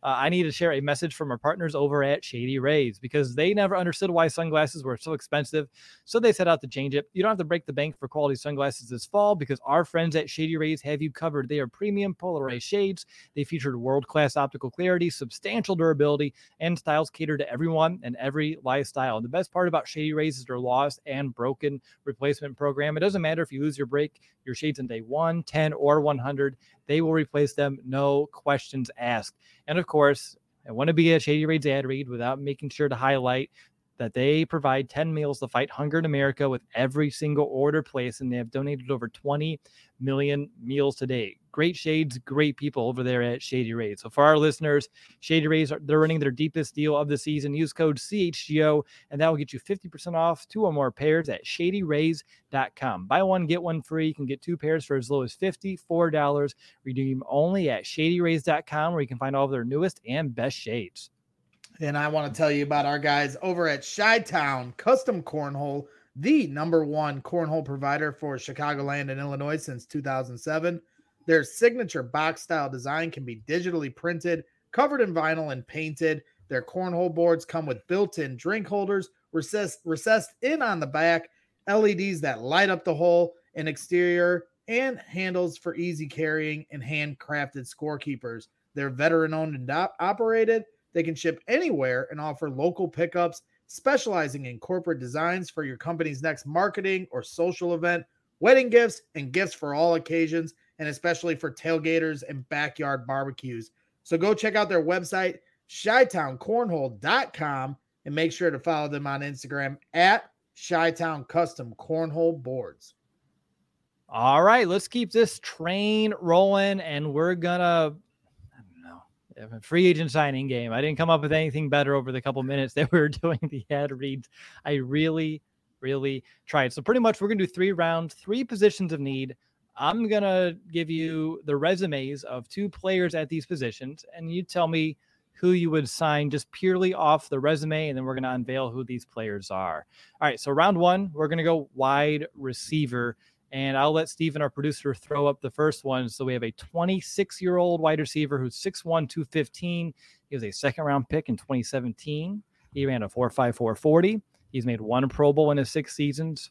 I need to share a message from our partners over at Shady Rays because they never understood why sunglasses were so expensive. So they set out to change it. You don't have to break the bank for quality sunglasses this fall because our friends at Shady Rays have you covered. They are premium polarized shades. They featured world-class optical clarity, substantial durability, and styles cater to everyone and every lifestyle. And the best part about Shady Rays is their lost and broken replacement program. It doesn't matter if you lose your shades on day 1, 10, or 100. They will replace them, no questions asked. And of course, I want to be a Shady Rays ad read without making sure to highlight that they provide 10 meals to fight hunger in America with every single order placed, and they have donated over 20 million meals to date. Great shades, great people over there at Shady Rays. So for our listeners, Shady Rays, they're running their deepest deal of the season. Use code CHGO, and that will get you 50% off 2 or more pairs at ShadyRays.com. Buy one, get one free. You can get 2 pairs for as low as $54. Redeem only at ShadyRays.com, where you can find all of their newest and best shades. And I want to tell you about our guys over at Chi-Town Custom Cornhole, the #1 cornhole provider for Chicagoland and Illinois since 2007. Their signature box-style design can be digitally printed, covered in vinyl, and painted. Their cornhole boards come with built-in drink holders, recessed in on the back, LEDs that light up the hole, an exterior, and handles for easy carrying and handcrafted scorekeepers. They're veteran-owned and operated. They can ship anywhere and offer local pickups, specializing in corporate designs for your company's next marketing or social event, wedding gifts, and gifts for all occasions, and especially for tailgaters and backyard barbecues. So go check out their website, ChiTownCornhole.com, and make sure to follow them on Instagram at Chi-Town Custom Cornhole Boards. All right, let's keep this train rolling, and we're gonna a free agent signing game. I didn't come up with anything better over the couple minutes that we were doing the ad reads. I really tried. So pretty much we're going to do 3 rounds, 3 positions of need. I'm going to give you the resumes of 2 players at these positions, and you tell me who you would sign just purely off the resume, and then we're going to unveil who these players are. All right, so round 1, we're going to go wide receiver. And I'll let Steven, our producer, throw up the first one. So we have a 26-year-old wide receiver who's 6'1", 215. He was a second-round pick in 2017. He ran a 4.54 40. He's made 1 Pro Bowl in his 6 seasons,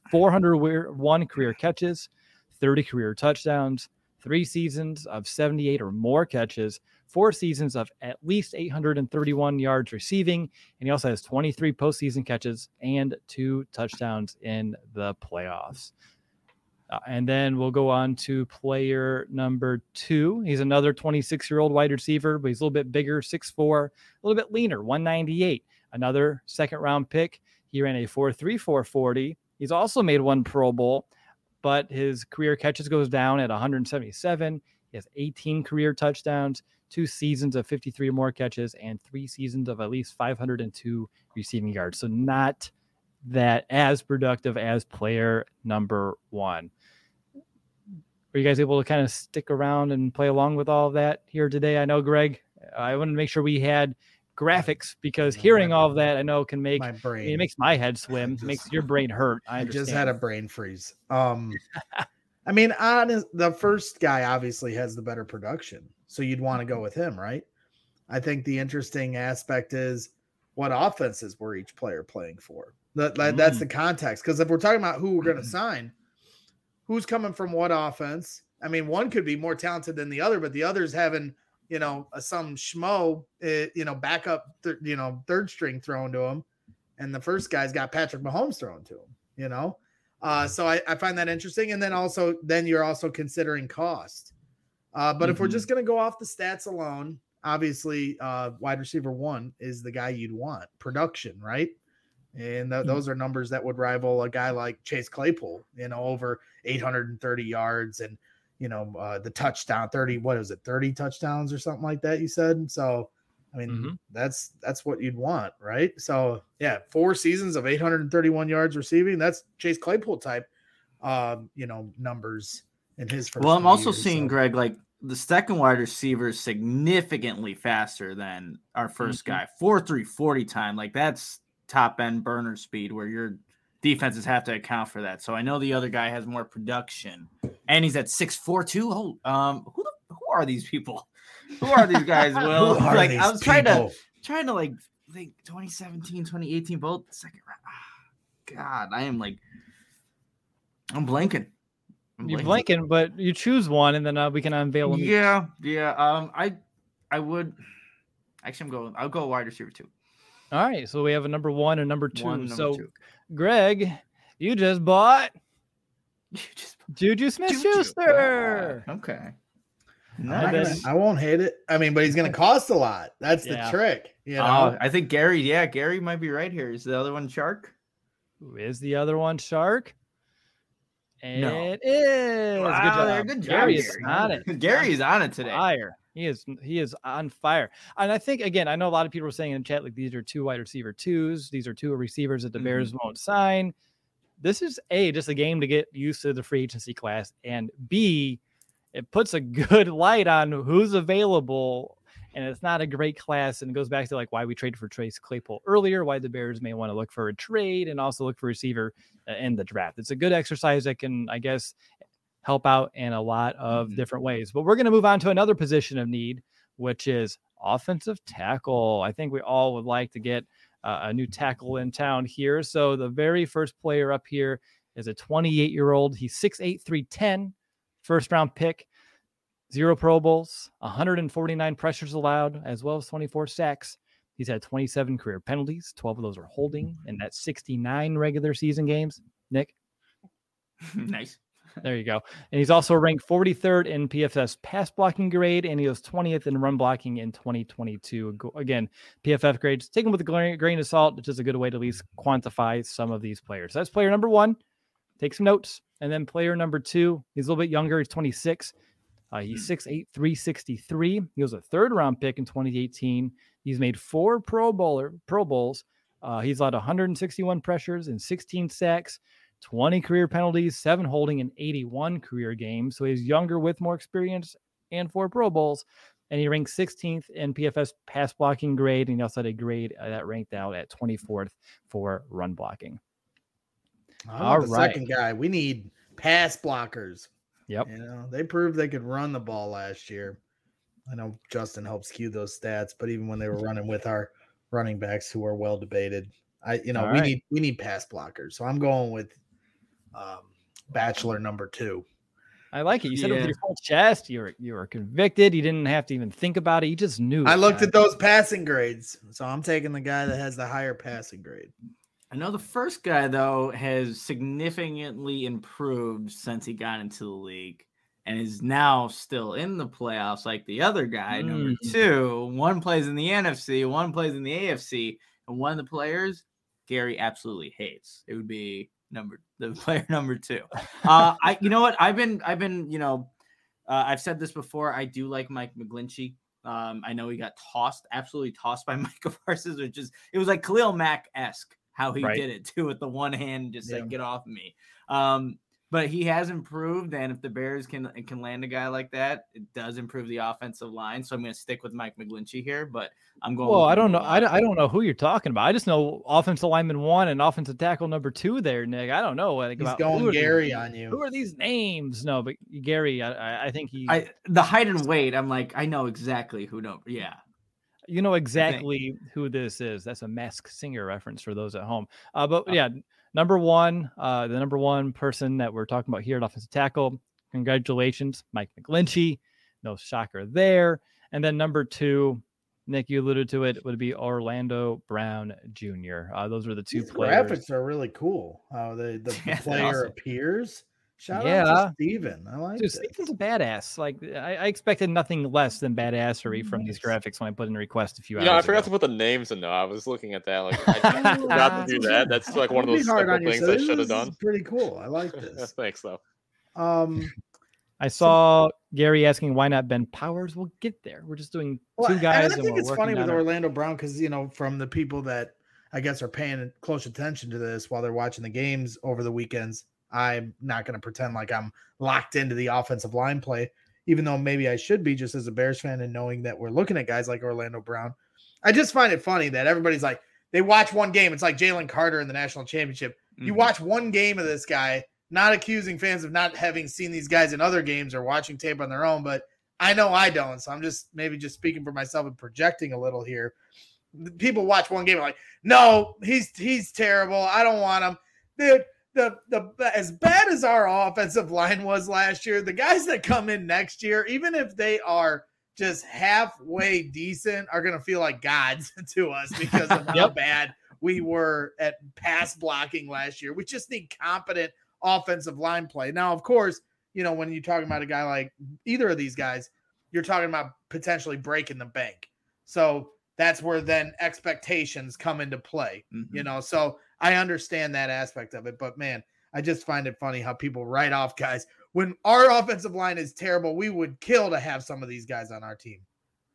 401 career catches, 30 career touchdowns, 3 seasons of 78 or more catches, 4 seasons of at least 831 yards receiving, and he also has 23 postseason catches and 2 touchdowns in the playoffs. And then we'll go on to player number 2. He's another 26-year-old wide receiver, but he's a little bit bigger, 6'4", a little bit leaner, 198. Another second-round pick. He ran a 4.34 40. He's also made 1 Pro Bowl, but his career catches goes down at 177. He has 18 career touchdowns, 2 seasons of 53 or more catches, and 3 seasons of at least 502 receiving yards. So not that as productive as player number 1. Were you guys able to kind of stick around and play along with all of that here today? I know, Greg, I wanted to make sure we had graphics because hearing all of that, I know, can make my brain. It makes my head swim, makes your brain hurt. I just had a brain freeze. I mean, the first guy obviously has the better production, so you'd want to go with him, right? I think the interesting aspect is what offenses were each player playing for. That's the context. Because if we're talking about who we're going to sign, who's coming from what offense? I mean, one could be more talented than the other, but the other's having, some schmo, backup, third string thrown to him. And the first guy's got Patrick Mahomes thrown to him, So I find that interesting. And then you're also considering cost. But if we're just going to go off the stats alone, obviously wide receiver 1 is the guy you'd want. Production, right? And those are numbers that would rival a guy like Chase Claypool, over 830 yards and, the touchdown 30 touchdowns or something like that, you said. So, I mean, that's what you'd want, right? So, yeah, 4 seasons of 831 yards receiving. That's Chase Claypool type, numbers in his first. Well, I'm also seeing, Greg, like the second wide receiver is significantly faster than our first guy. 4.3 40 time. Like that's top end burner speed where your defenses have to account for that. So I know the other guy has more production and he's at 6'4" too. Who are these people? Who are these guys, Will? Who are Like these I was people? trying to like think 2017, 2018, both second round. God, I'm blanking. You're blanking, but you choose one, and then we can unveil them. Yeah. I would actually. I'll go wide receiver 2. All right, so we have a number 1 and number 2. Number 2. Greg, you just bought Juju Smith-Schuster. Okay. I won't hate it. I mean, but he's going to cost a lot. That's the trick. You know? I think Gary might be right here. Is the other one Shark? Who is the other one, Shark? No. It is. Wow, good job. Gary is on it. Gary is on it today. Fire. He is on fire. And I think, again, I know a lot of people were saying in chat, like, these are 2 wide receiver 2s. These are 2 receivers that the Bears won't sign. This is just a game to get used to the free agency class, and B, it puts a good light on who's available, and it's not a great class, and it goes back to like why we traded for Chase Claypool earlier, why the Bears may want to look for a trade and also look for a receiver in the draft. It's a good exercise that can, I guess, help out in a lot of different ways. But we're going to move on to another position of need, which is offensive tackle. I think we all would like to get a new tackle in town here. So the very first player up here is a 28-year-old. He's 6'8", 310. First round pick, 0 Pro Bowls, 149 pressures allowed, as well as 24 sacks. He's had 27 career penalties. 12 of those are holding, and that's 69 regular season games. Nick? Nice. There you go. And he's also ranked 43rd in PFF's pass blocking grade, and he was 20th in run blocking in 2022. Again, PFF grades, take them with a grain of salt, which is a good way to at least quantify some of these players. So that's player number 1. Take some notes. And then player number 2, he's a little bit younger. He's 26. He's 6'8", 363. He was a 3rd-round pick in 2018. He's made 4 Pro Bowls. He's allowed 161 pressures and 16 sacks, 20 career penalties, 7 holding, and 81 career games. So he's younger with more experience and 4 Pro Bowls. And he ranked 16th in PFF's pass blocking grade. And he also had a grade that ranked out at 24th for run blocking. All right. Second guy. We need pass blockers. Yep. You know, they proved they could run the ball last year. I know Justin helped skew those stats, but even when they were running with our running backs who are well debated, we need pass blockers. So I'm going with Bachelor number 2. I like it. You said it with your full chest. You were convicted. You didn't have to even think about it. You just knew. I looked at those passing grades, so I'm taking the guy that has the higher passing grade. I know the first guy, though, has significantly improved since he got into the league and is now still in the playoffs like the other guy, number 2. One plays in the NFC, one plays in the AFC, and one of the players Gary absolutely hates. It would be the player number 2. You know what? I've said this before. I do like Mike McGlinchey. I know he got absolutely tossed by Micah Parsons, it was like Khalil Mack-esque. How he did it too with the one hand, just like get off of me. But he has improved, and if the Bears can land a guy like that, it does improve the offensive line. So I'm going to stick with Mike McGlinchey here, but I'm going. Well, I don't know. I don't know who you're talking about. I just know offensive lineman 1 and offensive tackle number 2 there, Nick. I don't know. He's going Gary on you. Who are these names? No, but Gary, I think the height and weight. I'm like, I know exactly who. No, yeah. You know exactly who this is. That's a Masked Singer reference for those at home. But yeah, number 1, the number 1 person that we're talking about here at offensive tackle. Congratulations, Mike McGlinchey. No shocker there. And then number 2, Nick, you alluded to it, would be Orlando Brown Jr. Those are the 2 players. Graphics are really cool. The player appears. Shout out to Steven. I like this. Steven's a badass. Like I expected nothing less than badassery from these graphics when I put in a request a few hours ago. I forgot to put the names in though. I was looking at that. Like I forgot to do that. That's like one of those simple things I should have done. Pretty cool. I like this. Thanks though. I saw Gary asking why not Ben Powers. We'll get there. We're just doing 2 guys. I think it's funny with Orlando Brown because from the people that I guess are paying close attention to this while they're watching the games over the weekends. I'm not going to pretend like I'm locked into the offensive line play, even though maybe I should be just as a Bears fan and knowing that we're looking at guys like Orlando Brown. I just find it funny that everybody's like, they watch one game. It's like Jalen Carter in the national championship. Mm-hmm. You watch one game of this guy, not accusing fans of not having seen these guys in other games or watching tape on their own, but I know I don't. So I'm just speaking for myself and projecting a little here. People watch one game and like, no, he's terrible. I don't want him. Dude, the as bad as our offensive line was last year, the guys that come in next year, even if they are just halfway decent, are going to feel like gods to us because of how bad we were at pass blocking last year. We just need competent offensive line play. Now, of course, when you're talking about a guy like either of these guys, you're talking about potentially breaking the bank. So that's where then expectations come into play, So I understand that aspect of it. But, man, I just find it funny how people write off guys. When our offensive line is terrible, we would kill to have some of these guys on our team.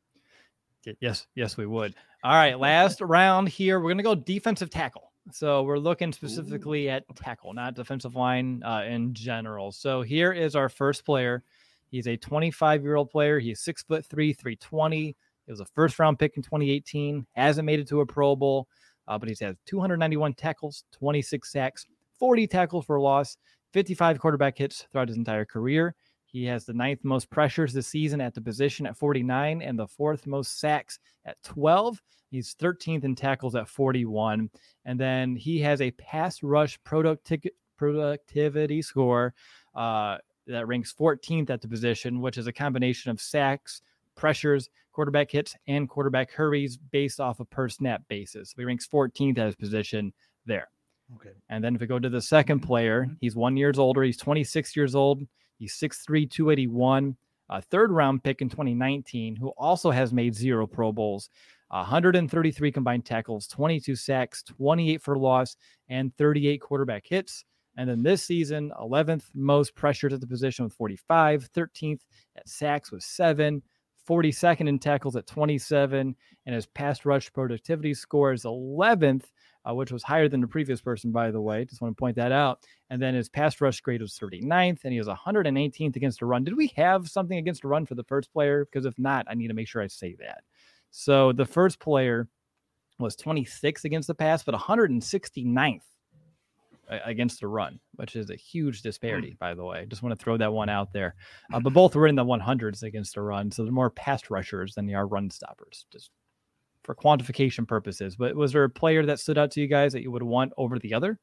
Yes, we would. All right, last round here. We're going to go defensive tackle. So we're looking specifically at tackle, not defensive line in general. So here is our first player. He's a 25-year-old player. He's 6'3", 320. He was a first-round pick in 2018. Hasn't made it to a Pro Bowl, but he's had 291 tackles, 26 sacks, 40 tackles for loss, 55 quarterback hits throughout his entire career. He has the 9th most pressures this season at the position at 49 and the 4th most sacks at 12. He's 13th in tackles at 41. And then he has a pass rush productivity score that ranks 14th at the position, which is a combination of sacks, pressures, quarterback hits, and quarterback hurries based off a per snap basis. So he ranks 14th at his position there. Okay. And then if we go to the second player, he's 1 year older. He's 26 years old. He's 6'3", 281, a third-round pick in 2019, who also has made 0 Pro Bowls, 133 combined tackles, 22 sacks, 28 for loss, and 38 quarterback hits. And then this season, 11th most pressures at the position with 45, 13th at sacks with 7, 42nd in tackles at 27, and his pass rush productivity score is 11th, which was higher than the previous person, by the way. Just want to point that out. And then his pass rush grade was 39th, and he was 118th against the run. Did we have something against the run for the first player? Because if not, I need to make sure I say that. So the first player was 26th against the pass, but 169th against the run, which is a huge disparity, by the way. Just want to throw that one out there. But both were in the 100s against the run, so they're more pass rushers than they are run stoppers, just for quantification purposes. But was there a player that stood out to you guys that you would want over the other?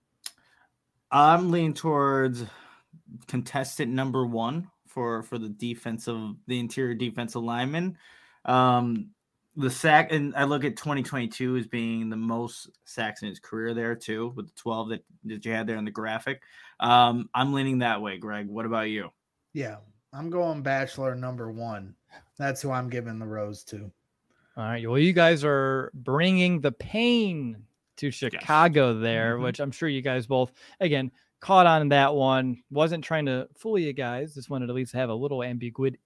I'm leaning towards contestant number 1 for the interior defensive lineman. The sack, and I look at 2022 as being the most sacks in his career there too, with the 12 that you had there in the graphic. I'm leaning that way, Greg. What about you? Yeah, I'm going bachelor number 1. That's who I'm giving the rose to. All right. Well, you guys are bringing the pain to Chicago there, which I'm sure you guys both, again, caught on that one. Wasn't trying to fool you guys. Just wanted to at least have a little ambiguity.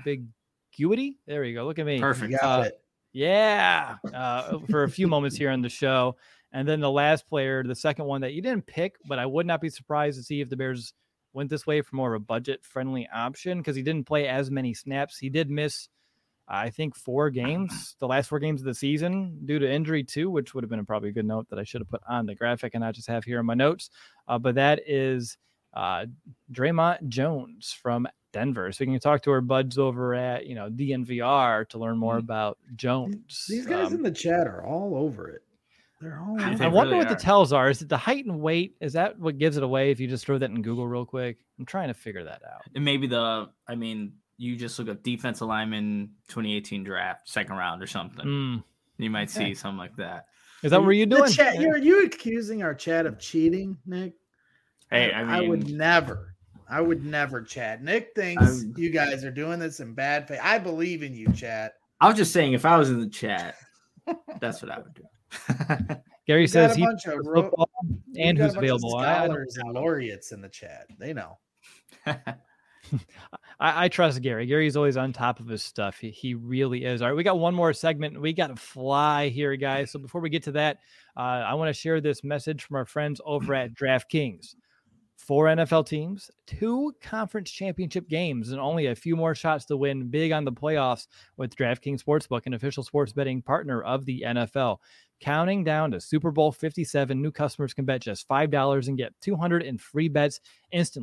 There you go. Look at me. Perfect. Got it. Yeah. For a few moments here on the show. And then the last player, the second one that you didn't pick, but I would not be surprised to see if the Bears went this way for more of a budget-friendly option because he didn't play as many snaps. He did miss, I think, 4 games, the last 4 games of the season due to injury too, which would have been probably a good note that I should have put on the graphic and not just have here in my notes. But that is Draymond Jones from Denver. So we can talk to our buds over at, DNVR to learn more about Jones. These guys in the chat are all over it. They're all over it. I wonder what the tells are. Is it the height and weight? Is that what gives it away if you just throw that in Google real quick? I'm trying to figure that out. And maybe you just look up defensive lineman 2018 draft, 2nd round or something. You might see something like that. Is that what you're doing? Chat, are you accusing our chat of cheating, Nick? Hey, I would never, chat. Nick thinks you guys are doing this in bad faith. I believe in you, chat. I was just saying, if I was in the chat, that's what I would do. Gary says he's football and who's available. Scholars and laureates in the chat. They know. I trust Gary. Gary's always on top of his stuff. He really is. All right, we got one more segment. We got to fly here, guys. So before we get to that, I want to share this message from our friends over at DraftKings. 4 NFL teams, 2 conference championship games, and only a few more shots to win big on the playoffs with DraftKings Sportsbook, an official sports betting partner of the NFL. Counting down to Super Bowl 57, new customers can bet just $5 and get $200 in free bets instantly.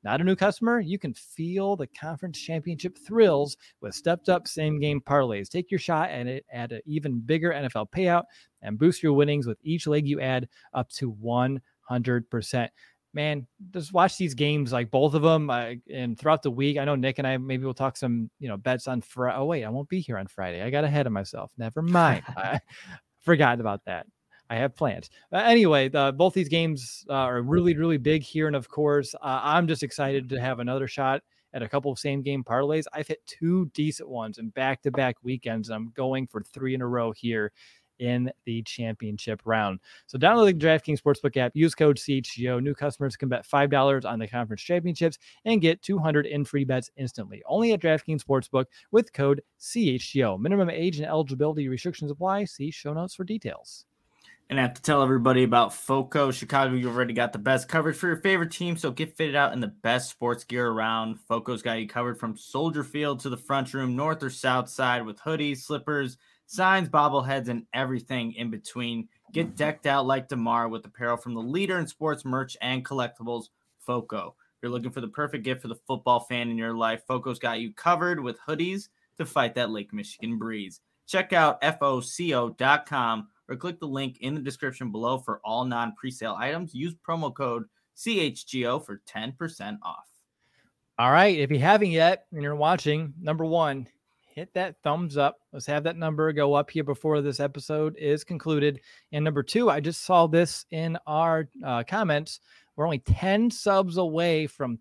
Not a new customer? You can feel the conference championship thrills with stepped-up same-game parlays. Take your shot at it at an even bigger NFL payout and boost your winnings with each leg you add up to 100%. Man, just watch these games, like both of them, and throughout the week. I know Nick and I maybe we'll talk some, bets on Friday. Oh wait, I won't be here on Friday. I got ahead of myself. Never mind. I forgot about that. I have plans. Anyway, both these games are really, really big here, and of course, I'm just excited to have another shot at a couple of same-game parlays. I've hit 2 decent ones in back-to-back weekends, and I'm going for 3 in a row here in the championship round. So download the DraftKings Sportsbook app, use code CHGO. New customers can bet $5 on the conference championships and get $200 in free bets instantly. Only at DraftKings Sportsbook with code CHGO. Minimum age and eligibility restrictions apply. See show notes for details. And I have to tell everybody about FOCO. Chicago, you've already got the best coverage for your favorite team, so get fitted out in the best sports gear around. FOCO's got you covered from Soldier Field to the front room, north or south side, with hoodies, slippers, signs, bobbleheads, and everything in between. Get decked out like DeMar with apparel from the leader in sports merch and collectibles, FOCO. If you're looking for the perfect gift for the football fan in your life, FOCO's got you covered with hoodies to fight that Lake Michigan breeze. Check out FOCO.com or click the link in the description below for all non-presale items. Use promo code CHGO for 10% off. All right. If you haven't yet and you're watching, number 1, hit that thumbs up. Let's have that number go up here before this episode is concluded. And number 2, I just saw this in our comments. We're only 10 subs away from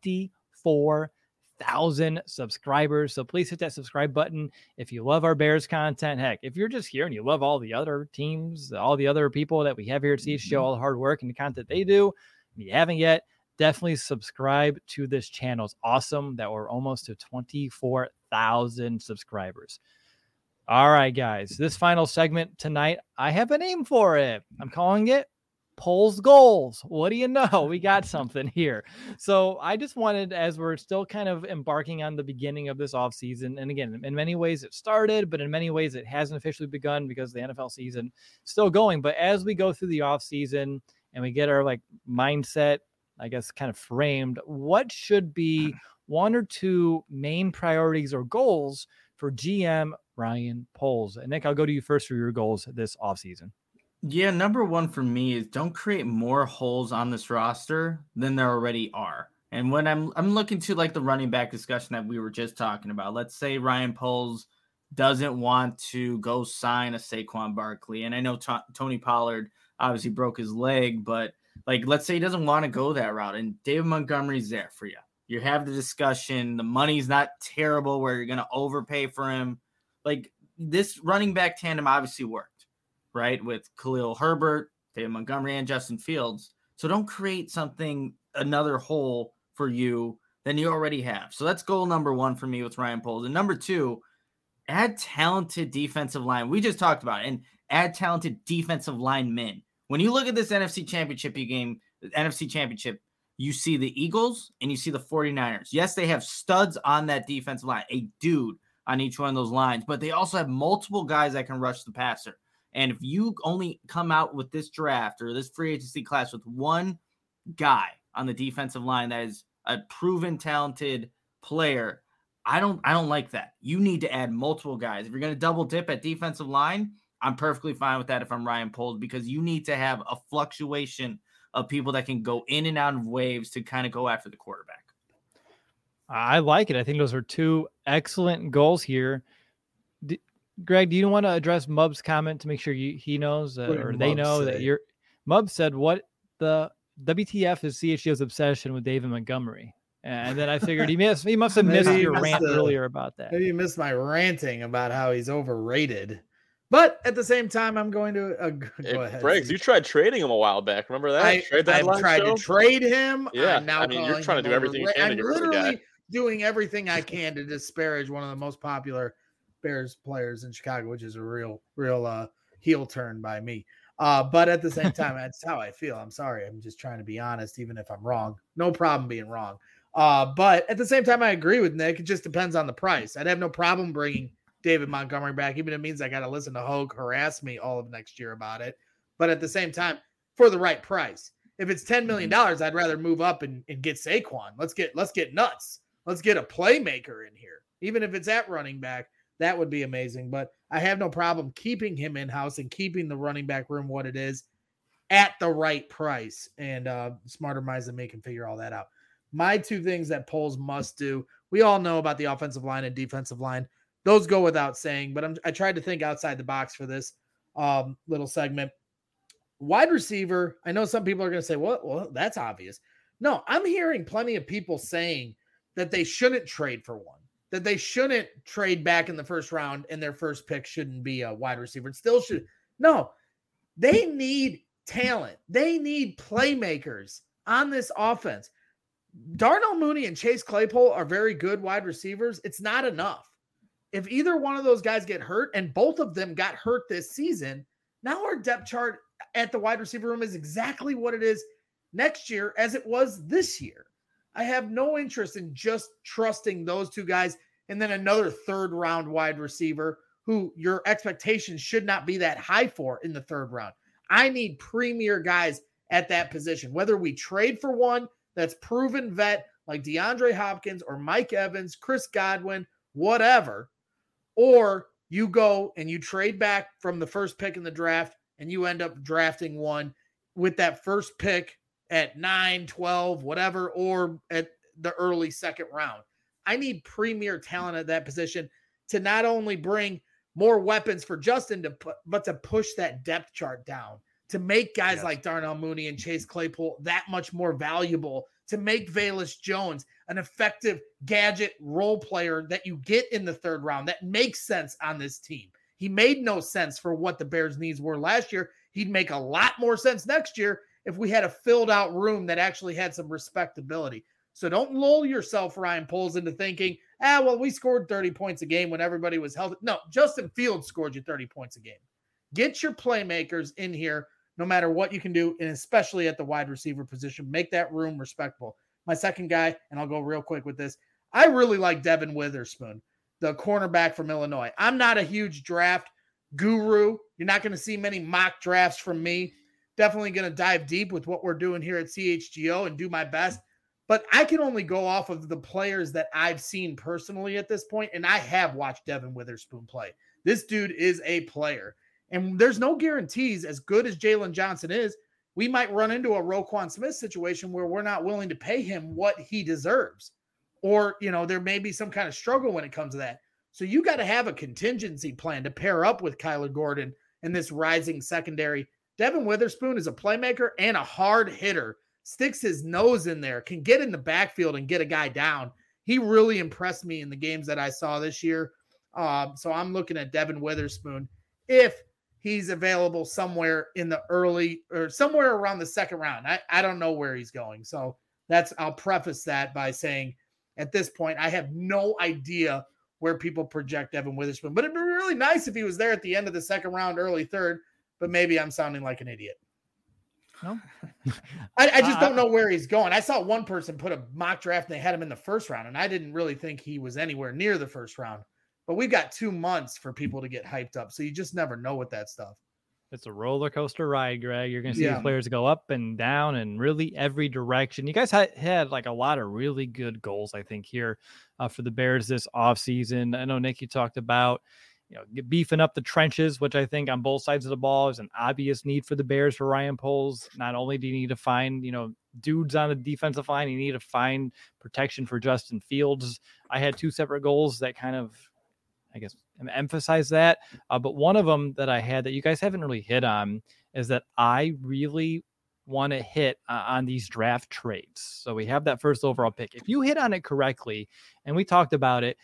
24,000 subscribers. So please hit that subscribe button. If you love our Bears content, heck, if you're just here and you love all the other teams, all the other people that we have here at CHGO, all the hard work and the content they do, if you haven't yet, definitely subscribe to this channel. It's awesome that we're almost to 24,000 subscribers. All right, guys, this final segment tonight, I have a name for it. I'm calling it Poles Goals. What do you know? We got something here. So I just wanted, as we're still kind of embarking on the beginning of this offseason, and again, in many ways it started, but in many ways it hasn't officially begun because the NFL season is still going. But as we go through the offseason and we get our mindset, I guess, kind of framed, what should be 1 or 2 main priorities or goals for GM Ryan Poles? And Nick, I'll go to you first for your goals this offseason. Yeah, number 1 for me is don't create more holes on this roster than there already are. And when I'm looking to the running back discussion that we were just talking about, let's say Ryan Poles doesn't want to go sign a Saquon Barkley. And I know Tony Pollard obviously broke his leg, but let's say he doesn't want to go that route and David Montgomery's there for you. You have the discussion. The money's not terrible where you're going to overpay for him. This running back tandem obviously worked, right? With Khalil Herbert, David Montgomery, and Justin Fields. So don't create another hole for you than you already have. So that's goal number 1 for me with Ryan Poles. And number 2, add talented defensive line. We just talked about it. And add talented defensive linemen. When you look at this NFC Championship game, you see the Eagles and you see the 49ers. Yes, they have studs on that defensive line, a dude on each one of those lines, but they also have multiple guys that can rush the passer. And if you only come out with this draft or this free agency class with 1 guy on the defensive line that is a proven talented player, I don't like that. You need to add multiple guys. If you're going to double dip at defensive line, I'm perfectly fine with that if I'm Ryan Poles, because you need to have a fluctuation of people that can go in and out of waves to kind of go after the quarterback. I like it. I think those are 2 excellent goals here. Greg, do you want to address Mub's comment to make sure he knows or they know that you're Mub said what the WTF is CHGO's obsession with David Montgomery. And then I figured he must have missed your rant earlier about that. Maybe you missed my ranting about how he's overrated. But at the same time, I'm going to go ahead. Briggs, you tried trading him a while back. Remember that? I tried to trade him. Yeah, you're trying to do everything you can to get rid of the guy. I'm literally doing everything I can to disparage one of the most popular Bears players in Chicago, which is a real heel turn by me. But at the same time, that's how I feel. I'm sorry. I'm just trying to be honest, even if I'm wrong. No problem being wrong. But at the same time, I agree with Nick. It just depends on the price. I'd have no problem bringing David Montgomery back, even if it means I got to listen to Hogue harass me all of next year about it. But at the same time, for the right price. If it's $10 million, I'd rather move up and get Saquon. Let's get nuts. Let's get a playmaker in here. Even if it's at running back, that would be amazing. But I have no problem keeping him in-house and keeping the running back room what it is at the right price. And smarter minds than me can figure all that out. My two things that polls must do, we all know about the offensive line and defensive line. Those go without saying, but I tried to think outside the box for this little segment. Wide receiver, I know some people are going to say, well, that's obvious. No, I'm hearing plenty of people saying that they shouldn't trade for one, that they shouldn't trade back in the first round and their first pick shouldn't be a wide receiver. It still should. No, they need talent. They need playmakers on this offense. Darnell Mooney and Chase Claypool are very good wide receivers. It's not enough. If either one of those guys get hurt, and both of them got hurt this season, now our depth chart at the wide receiver room is exactly what it is next year as it was this year. I have no interest in just trusting those two guys and then another third round wide receiver who your expectations should not be that high for in the third round. I need premier guys at that position, whether we trade for one that's proven vet like DeAndre Hopkins or Mike Evans, Chris Godwin, whatever, or you go and you trade back from the first pick in the draft and you end up drafting one with that first pick at 9, 12, whatever, or at the early second round. I need premier talent at that position to not only bring more weapons for Justin, but to push that depth chart down, to make guys like Darnell Mooney and Chase Claypool that much more valuable, to make Velus Jones an effective gadget role player that you get in the third round that makes sense on this team. He made no sense for what the Bears' needs were last year. He'd make a lot more sense next year if we had a filled out room that actually had some respectability. So don't lull yourself, Ryan Poles, into thinking, we scored 30 points a game when everybody was healthy. No, Justin Fields scored you 30 points a game. Get your playmakers in here no matter what you can do, and especially at the wide receiver position. Make that room respectable. My second guy, and I'll go real quick with this, I really like Devin Witherspoon, the cornerback from Illinois. I'm not a huge draft guru. You're not going to see many mock drafts from me. Definitely going to dive deep with what we're doing here at CHGO and do my best. But I can only go off of the players that I've seen personally at this point, and I have watched Devin Witherspoon play. This dude is a player. And there's no guarantees, as good as Jalen Johnson is, we might run into a Roquan Smith situation where we're not willing to pay him what he deserves. Or, there may be some kind of struggle when it comes to that. So you got to have a contingency plan to pair up with Kyler Gordon in this rising secondary. Devin Witherspoon is a playmaker and a hard hitter, sticks his nose in there, can get in the backfield and get a guy down. He really impressed me in the games that I saw this year. So I'm looking at Devin Witherspoon if he's available somewhere in the early or somewhere around the second round. I don't know where he's going. So I'll preface that by saying at this point, I have no idea where people project Devin Witherspoon, but it'd be really nice if he was there at the end of the second round, early third, but maybe I'm sounding like an idiot. No, I just don't know where he's going. I saw one person put a mock draft and they had him in the first round, and I didn't really think he was anywhere near the first round. But we've got 2 months for people to get hyped up, so you just never know with that stuff. It's a roller coaster ride, Greg. You're going to see the players go up and down and really every direction. You guys had like a lot of really good goals, I think, here for the Bears this offseason. I know, Nick, you talked about beefing up the trenches, which I think on both sides of the ball is an obvious need for the Bears for Ryan Poles. Not only do you need to find, dudes on the defensive line, you need to find protection for Justin Fields. I had 2 separate goals that kind of, emphasize that. But one of them that I had that you guys haven't really hit on is that I really want to hit on these draft trades. So we have that first overall pick. If you hit on it correctly, and we talked about it,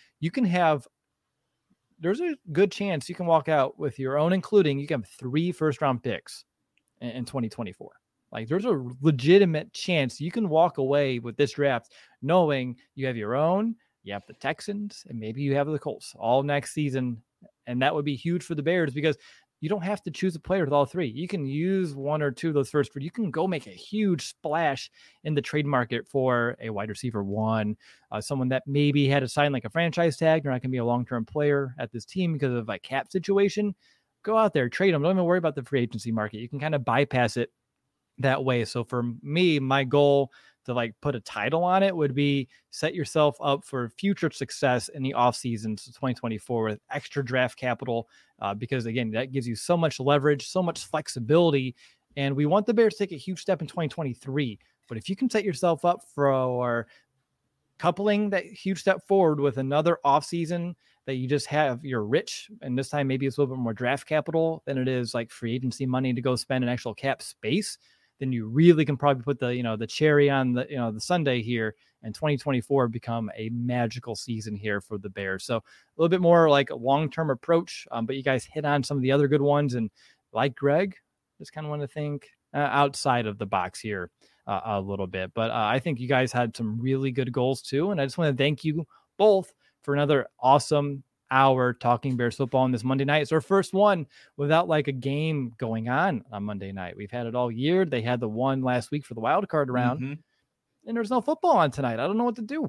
there's a good chance you can walk out with your own, including you can have 3 first-round picks in 2024. Like, there's a legitimate chance you can walk away with this draft knowing you have your own, you have the Texans, and maybe you have the Colts all next season. And that would be huge for the Bears because you don't have to choose a player with all 3. You can use 1 or 2 of those first, but you can go make a huge splash in the trade market for a wide receiver 1, someone that maybe had to sign like a franchise tag. They're not going to be a long-term player at this team because of a cap situation. Go out there, trade them. Don't even worry about the free agency market. You can kind of bypass it that way. So for me, my goal to like put a title on it would be set yourself up for future success in the off season, so 2024, with extra draft capital, because again, that gives you so much leverage, so much flexibility. And we want the Bears to take a huge step in 2023. But if you can set yourself up for coupling that huge step forward with another offseason that you just have, you're rich, and this time maybe it's a little bit more draft capital than it is like free agency money to go spend an actual cap space, then you really can probably put the cherry on the sundae here, and 2024 become a magical season here for the Bears. So a little bit more like a long-term approach, but you guys hit on some of the other good ones, and like Greg, just kind of want to think outside of the box here a little bit. But I think you guys had some really good goals too, and I just want to thank you both for another awesome hour talking Bears football on this Monday night. It's our first one without like a game going on Monday night. We've had it all year. They had the one last week for the wild card round, and there's no football on tonight. I don't know what to do.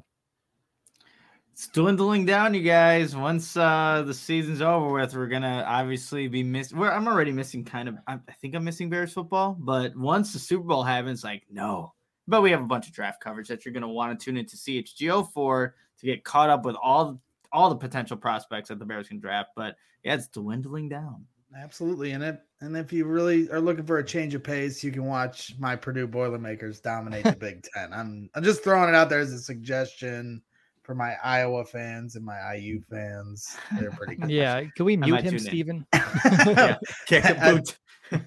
It's dwindling down, you guys. Once the season's over with, we're gonna obviously be missing. I'm already missing I think I'm missing Bears football, but once the Super Bowl happens, like no. But we have a bunch of draft coverage that you're gonna want to tune into CHGO for to get caught up with all the potential prospects that the Bears can draft. But yeah, it's dwindling down. Absolutely. And if you really are looking for a change of pace, you can watch my Purdue Boilermakers dominate the Big Ten. I'm just throwing it out there as a suggestion for my Iowa fans and my IU fans. They're pretty good. Yeah. Can we mute him, Steven? Yeah. Kick a boot.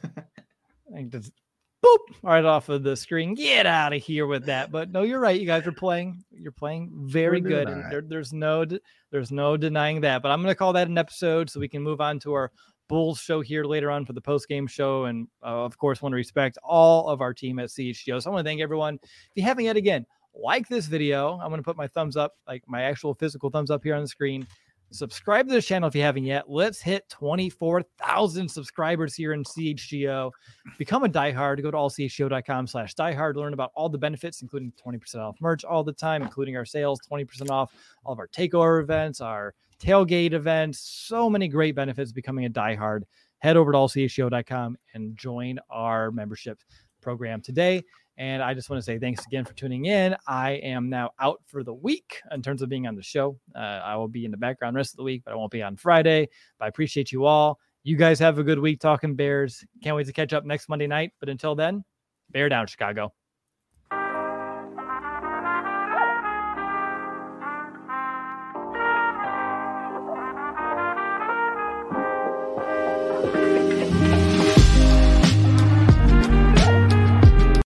I just boop right off of the screen. Get out of here with that. But no, you're right. You guys are playing. You're playing very good. And right. there's no denying that. But I'm going to call that an episode so we can move on to our Bulls show here later on for the post-game show. And of course, want to respect all of our team at CHGO. So I want to thank everyone. If you haven't yet, again, like this video. I'm going to put my thumbs up, like my actual physical thumbs up here on the screen. Subscribe to the channel if you haven't yet. Let's hit 24,000 subscribers here in CHGO. Become a diehard. Go to allchgo.com/diehard. Learn about all the benefits, including 20% off merch all the time, including our sales, 20% off all of our takeover events, our tailgate events. So many great benefits becoming a diehard. Head over to allchgo.com and join our membership program today. And I just want to say thanks again for tuning in. I am now out for the week in terms of being on the show. I will be in the background the rest of the week, but I won't be on Friday. But I appreciate you all. You guys have a good week talking Bears. Can't wait to catch up next Monday night. But until then, bear down, Chicago.